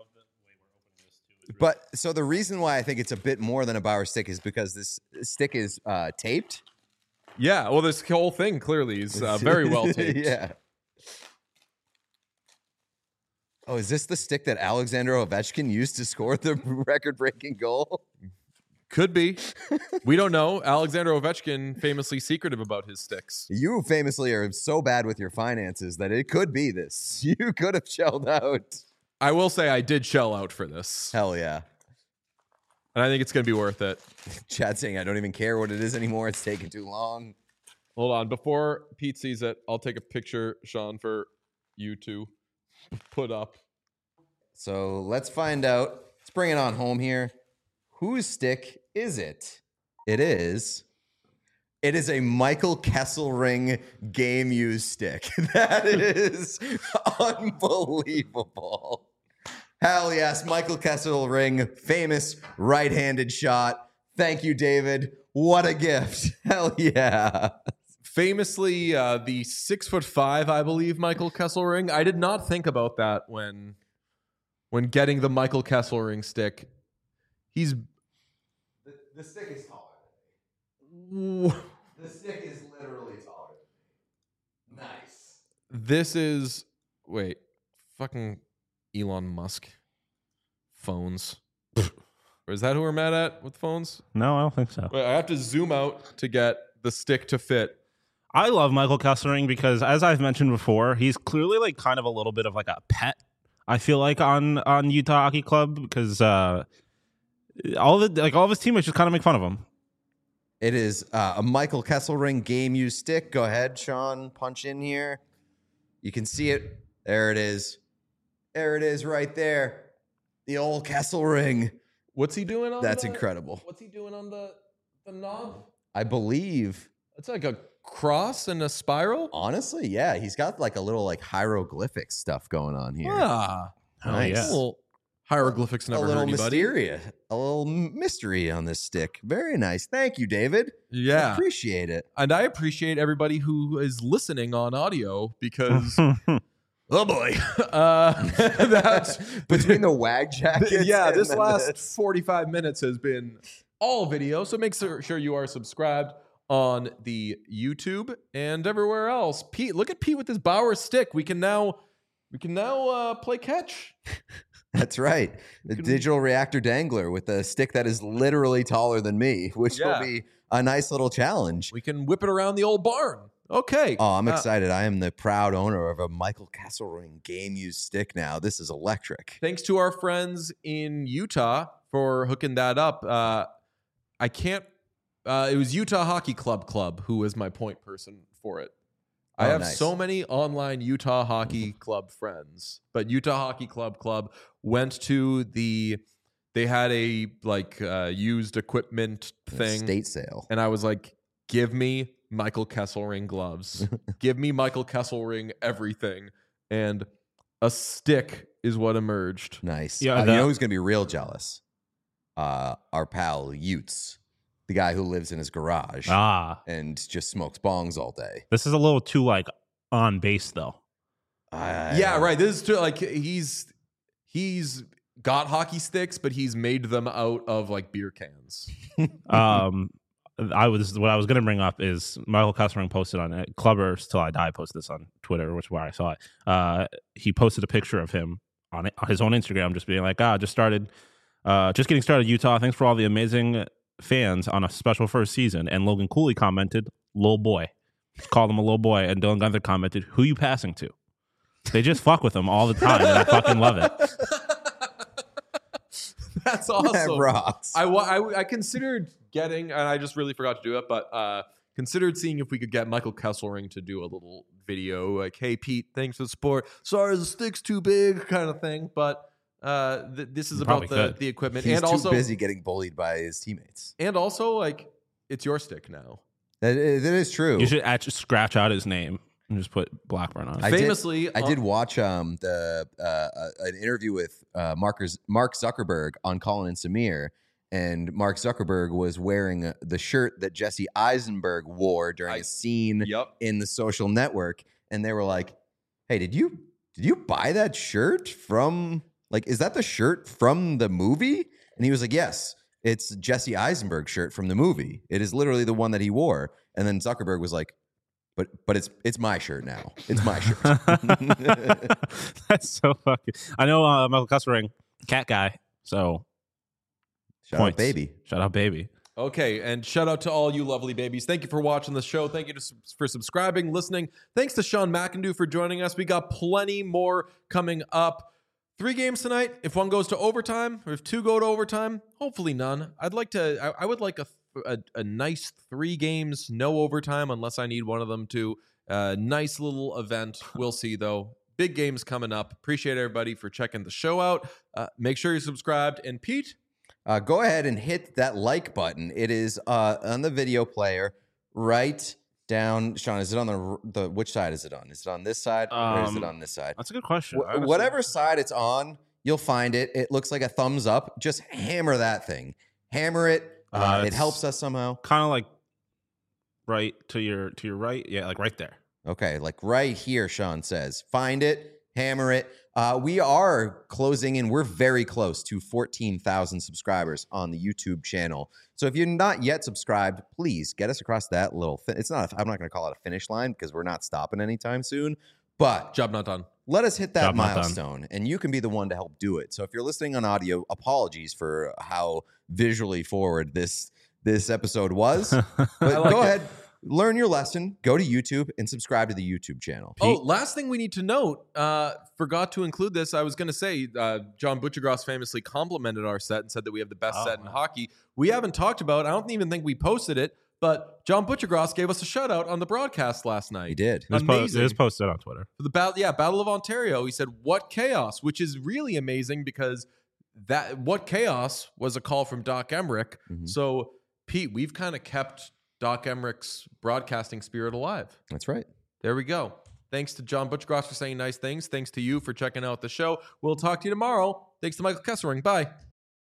Speaker 2: But so the reason why I think it's a bit more than a Bauer stick is because this stick is uh, taped.
Speaker 1: Yeah. Well, this whole thing clearly is uh, very well taped.
Speaker 2: Yeah. Oh, is this the stick that Alexander Ovechkin used to score the record-breaking goal?
Speaker 1: Could be. We don't know. Alexander Ovechkin famously secretive about his sticks.
Speaker 2: You famously are so bad with your finances that it could be this. You could have shelled out.
Speaker 1: I will say I did shell out for this.
Speaker 2: Hell yeah.
Speaker 1: and I think it's going to be worth it.
Speaker 2: Chad saying, I don't even care what it is anymore. It's taking too long.
Speaker 1: Hold on. Before Pete sees it, I'll take a picture, Sean, for you to put up.
Speaker 2: So let's find out. Let's bring it on home here. Whose stick is it? It is. It is a Michael Kesselring game use stick. That is unbelievable. Hell yes, Michael Kesselring, famous right-handed shot. Thank you, David. What a gift. Hell yeah.
Speaker 1: Famously, uh, the six foot five, I believe, Michael Kesselring. I did not think about that when, when getting the Michael Kesselring stick. He's
Speaker 2: The, the stick is taller than me. The stick is literally taller than me. Nice.
Speaker 1: This is wait, fucking Elon Musk phones. Or is that who we're mad at with phones?
Speaker 3: No, I don't think so.
Speaker 1: Wait, I have to zoom out to get the stick to fit.
Speaker 3: I love Michael Kesselring because, as I've mentioned before, he's clearly like kind of a little bit of like a pet. I feel like on on Utah Hockey Club because uh, all the like all of his teammates just kind of make fun of him.
Speaker 2: It is uh, a Michael Kesselring game use stick. Go ahead, Sean. Punch in here. You can see it. There it is. There it is right there. The old Kesselring.
Speaker 1: What's he doing on
Speaker 2: That's
Speaker 1: the,
Speaker 2: incredible.
Speaker 1: What's he doing on the the knob?
Speaker 2: I believe,
Speaker 1: It's like a cross and a spiral.
Speaker 2: honestly, yeah, he's got like a little like hieroglyphic stuff going on here.
Speaker 1: Ah,
Speaker 3: Hell
Speaker 2: Nice.
Speaker 3: yeah.
Speaker 1: little hieroglyphics
Speaker 2: A
Speaker 1: never
Speaker 2: little
Speaker 1: hurt anybody.
Speaker 2: mysterious, a little mystery on this stick. Very nice. Thank you, David.
Speaker 1: Yeah,
Speaker 2: Appreciate it.
Speaker 1: and I appreciate everybody who is listening on audio because oh boy, uh, that's
Speaker 2: Between the wag jackets.
Speaker 1: yeah.
Speaker 2: and
Speaker 1: This
Speaker 2: then
Speaker 1: last
Speaker 2: this.
Speaker 1: forty-five minutes has been all video, so make sure sure you are subscribed on the YouTube and everywhere else. Pete, look at Pete with his Bauer stick. We can now we can now uh, play catch.
Speaker 2: That's right. The
Speaker 1: can-
Speaker 2: digital reactor dangler with a stick that is literally taller than me, which
Speaker 1: Yeah.
Speaker 2: will be a nice little challenge.
Speaker 1: We can whip it around the old barn. Okay.
Speaker 2: Oh, I'm
Speaker 1: Uh,
Speaker 2: excited. I am the proud owner of a Michael Kesselring game use stick now. This is electric.
Speaker 1: Thanks to our friends in Utah for hooking that up. Uh, I can't. Uh, it was Utah Hockey Club Club who was my point person for it. I
Speaker 2: Oh,
Speaker 1: have
Speaker 2: nice.
Speaker 1: so many online Utah Hockey Club friends, but Utah Hockey Club Club went to the. They had a like uh, used equipment thing,
Speaker 2: State sale.
Speaker 1: and I was like, "Give me Michael Kesselring gloves. Give me Michael Kesselring everything." And a stick is what emerged.
Speaker 2: Nice.
Speaker 3: Yeah,
Speaker 2: Uh,
Speaker 3: that-
Speaker 2: you know who's going to be real jealous? Uh, our pal Utes, the guy who lives in his garage
Speaker 3: ah,
Speaker 2: and just smokes bongs all day.
Speaker 3: this is a little too like on base though.
Speaker 2: I-
Speaker 1: Yeah, right. This is true. Like he's he's got hockey sticks, but he's made them out of like beer cans.
Speaker 3: um, I was what I was going to bring up is Michael Kesselring posted on it. Clubbers Till I Die posted this on Twitter, which is where I saw it. Uh, he posted a picture of him on, it, on his own Instagram, just being like, "Ah, just started, uh, just getting started, Utah. Thanks for all the amazing fans on a special first season." And Logan Cooley commented, "Little boy," just called him a little boy, and Dylan Gunther commented, "Who you passing to?" They just fuck with him all the time, and I fucking love it.
Speaker 1: That's
Speaker 2: That
Speaker 1: awesome.
Speaker 2: rocks.
Speaker 1: I, wa- I I considered getting, and I just really forgot to do it, but uh, considered seeing if we could get Michael Kesselring to do a little video, like, "Hey Pete, thanks for the support. Sorry, the stick's too big," kind of thing. But uh, th- this is
Speaker 3: You
Speaker 1: about
Speaker 3: probably
Speaker 1: the,
Speaker 3: could.
Speaker 1: the equipment,
Speaker 2: He's
Speaker 1: and
Speaker 2: too
Speaker 1: also
Speaker 2: busy getting bullied by his teammates.
Speaker 1: and also like it's your stick now.
Speaker 2: That is, that is true.
Speaker 3: You should actually scratch out his name and just put Blackburn on it.
Speaker 2: I did-
Speaker 1: Famously,
Speaker 2: I
Speaker 1: uh,
Speaker 2: did watch um the uh, uh, an interview with uh, Markers, Mark Zuckerberg on Colin and Samir, and Mark Zuckerberg was wearing uh, the shirt that Jesse Eisenberg wore during
Speaker 1: I-
Speaker 2: a scene
Speaker 1: Yep.
Speaker 2: in The Social Network, and they were like, "Hey, did you did you buy that shirt from like is that the shirt from the movie?" And he was like, "Yes, it's Jesse Eisenberg's shirt from the movie. It is literally the one that he wore." And then Zuckerberg was like, But but it's it's my shirt now. It's my shirt.
Speaker 3: That's so fucking. I know uh, Michael Kesselring, cat guy. So
Speaker 2: Shout
Speaker 3: points.
Speaker 2: out, baby.
Speaker 3: Shout out, baby.
Speaker 1: Okay, and shout out to all you lovely babies. Thank you for watching the show. Thank you to, for subscribing, listening. Thanks to Sean McIndoe for joining us. We got plenty more coming up. Three games tonight. If one goes to overtime, or if two go to overtime, hopefully none. I'd like to. I, I would like a, a a nice three games, no overtime, unless I need one of them to. Uh, nice little event. We'll see though. Big games coming up. Appreciate everybody for checking the show out. Uh, make sure you're subscribed. And Pete,
Speaker 2: Uh, go ahead and hit that like button. It is uh, on the video player right down. Sean, is it on the the which side is it on? Is it on this side or is it
Speaker 3: Um,
Speaker 2: on this side?
Speaker 3: That's a good question.
Speaker 2: Wh-
Speaker 3: honestly.
Speaker 2: whatever side it's on, you'll find it. It looks like a thumbs up. Just hammer that thing. Hammer it. Uh,
Speaker 3: Uh,
Speaker 2: it
Speaker 3: it's-
Speaker 2: helps us somehow.
Speaker 3: Kind of like right to your to your right. Yeah, like right there.
Speaker 2: Okay, like right here, Sean says. Find it, hammer it. Uh, we are closing in. We're very close to fourteen thousand subscribers on the YouTube channel. So if you're not yet subscribed, please get us across that little. Fi- it's not. A, I'm not going to call it a finish line because we're not stopping anytime soon. But
Speaker 1: job not done.
Speaker 2: let us hit that
Speaker 3: Job not done.
Speaker 2: milestone, and you can be the one to help do it. So if you're listening on audio, apologies for how visually forward this this episode was. But
Speaker 1: I like
Speaker 2: go
Speaker 1: it.
Speaker 2: ahead, learn your lesson. Go to YouTube and subscribe to the YouTube channel.
Speaker 1: Oh, last thing we need to note, uh, forgot to include this. I was going to say, uh, John Butchergross famously complimented our set and said that we have the best
Speaker 3: Oh,
Speaker 1: set in
Speaker 3: wow.
Speaker 1: hockey. We haven't talked about, I don't even think we posted it, but John Butchergross gave us a shout out on the broadcast last night.
Speaker 2: He did.
Speaker 3: It was, po- it
Speaker 1: Amazing.
Speaker 3: was posted on Twitter.
Speaker 1: For the battle, yeah, Battle of Ontario. He said, "What chaos," which is really amazing because that "What chaos" was a call from Doc Emmerich.
Speaker 2: Mhm.
Speaker 1: So, Pete, we've kind of kept Doc Emmerich's broadcasting spirit alive.
Speaker 2: That's right.
Speaker 1: There we go. Thanks to John Butchergross for saying nice things. Thanks to you for checking out the show. We'll talk to you tomorrow. Thanks to Michael Kessering. Bye.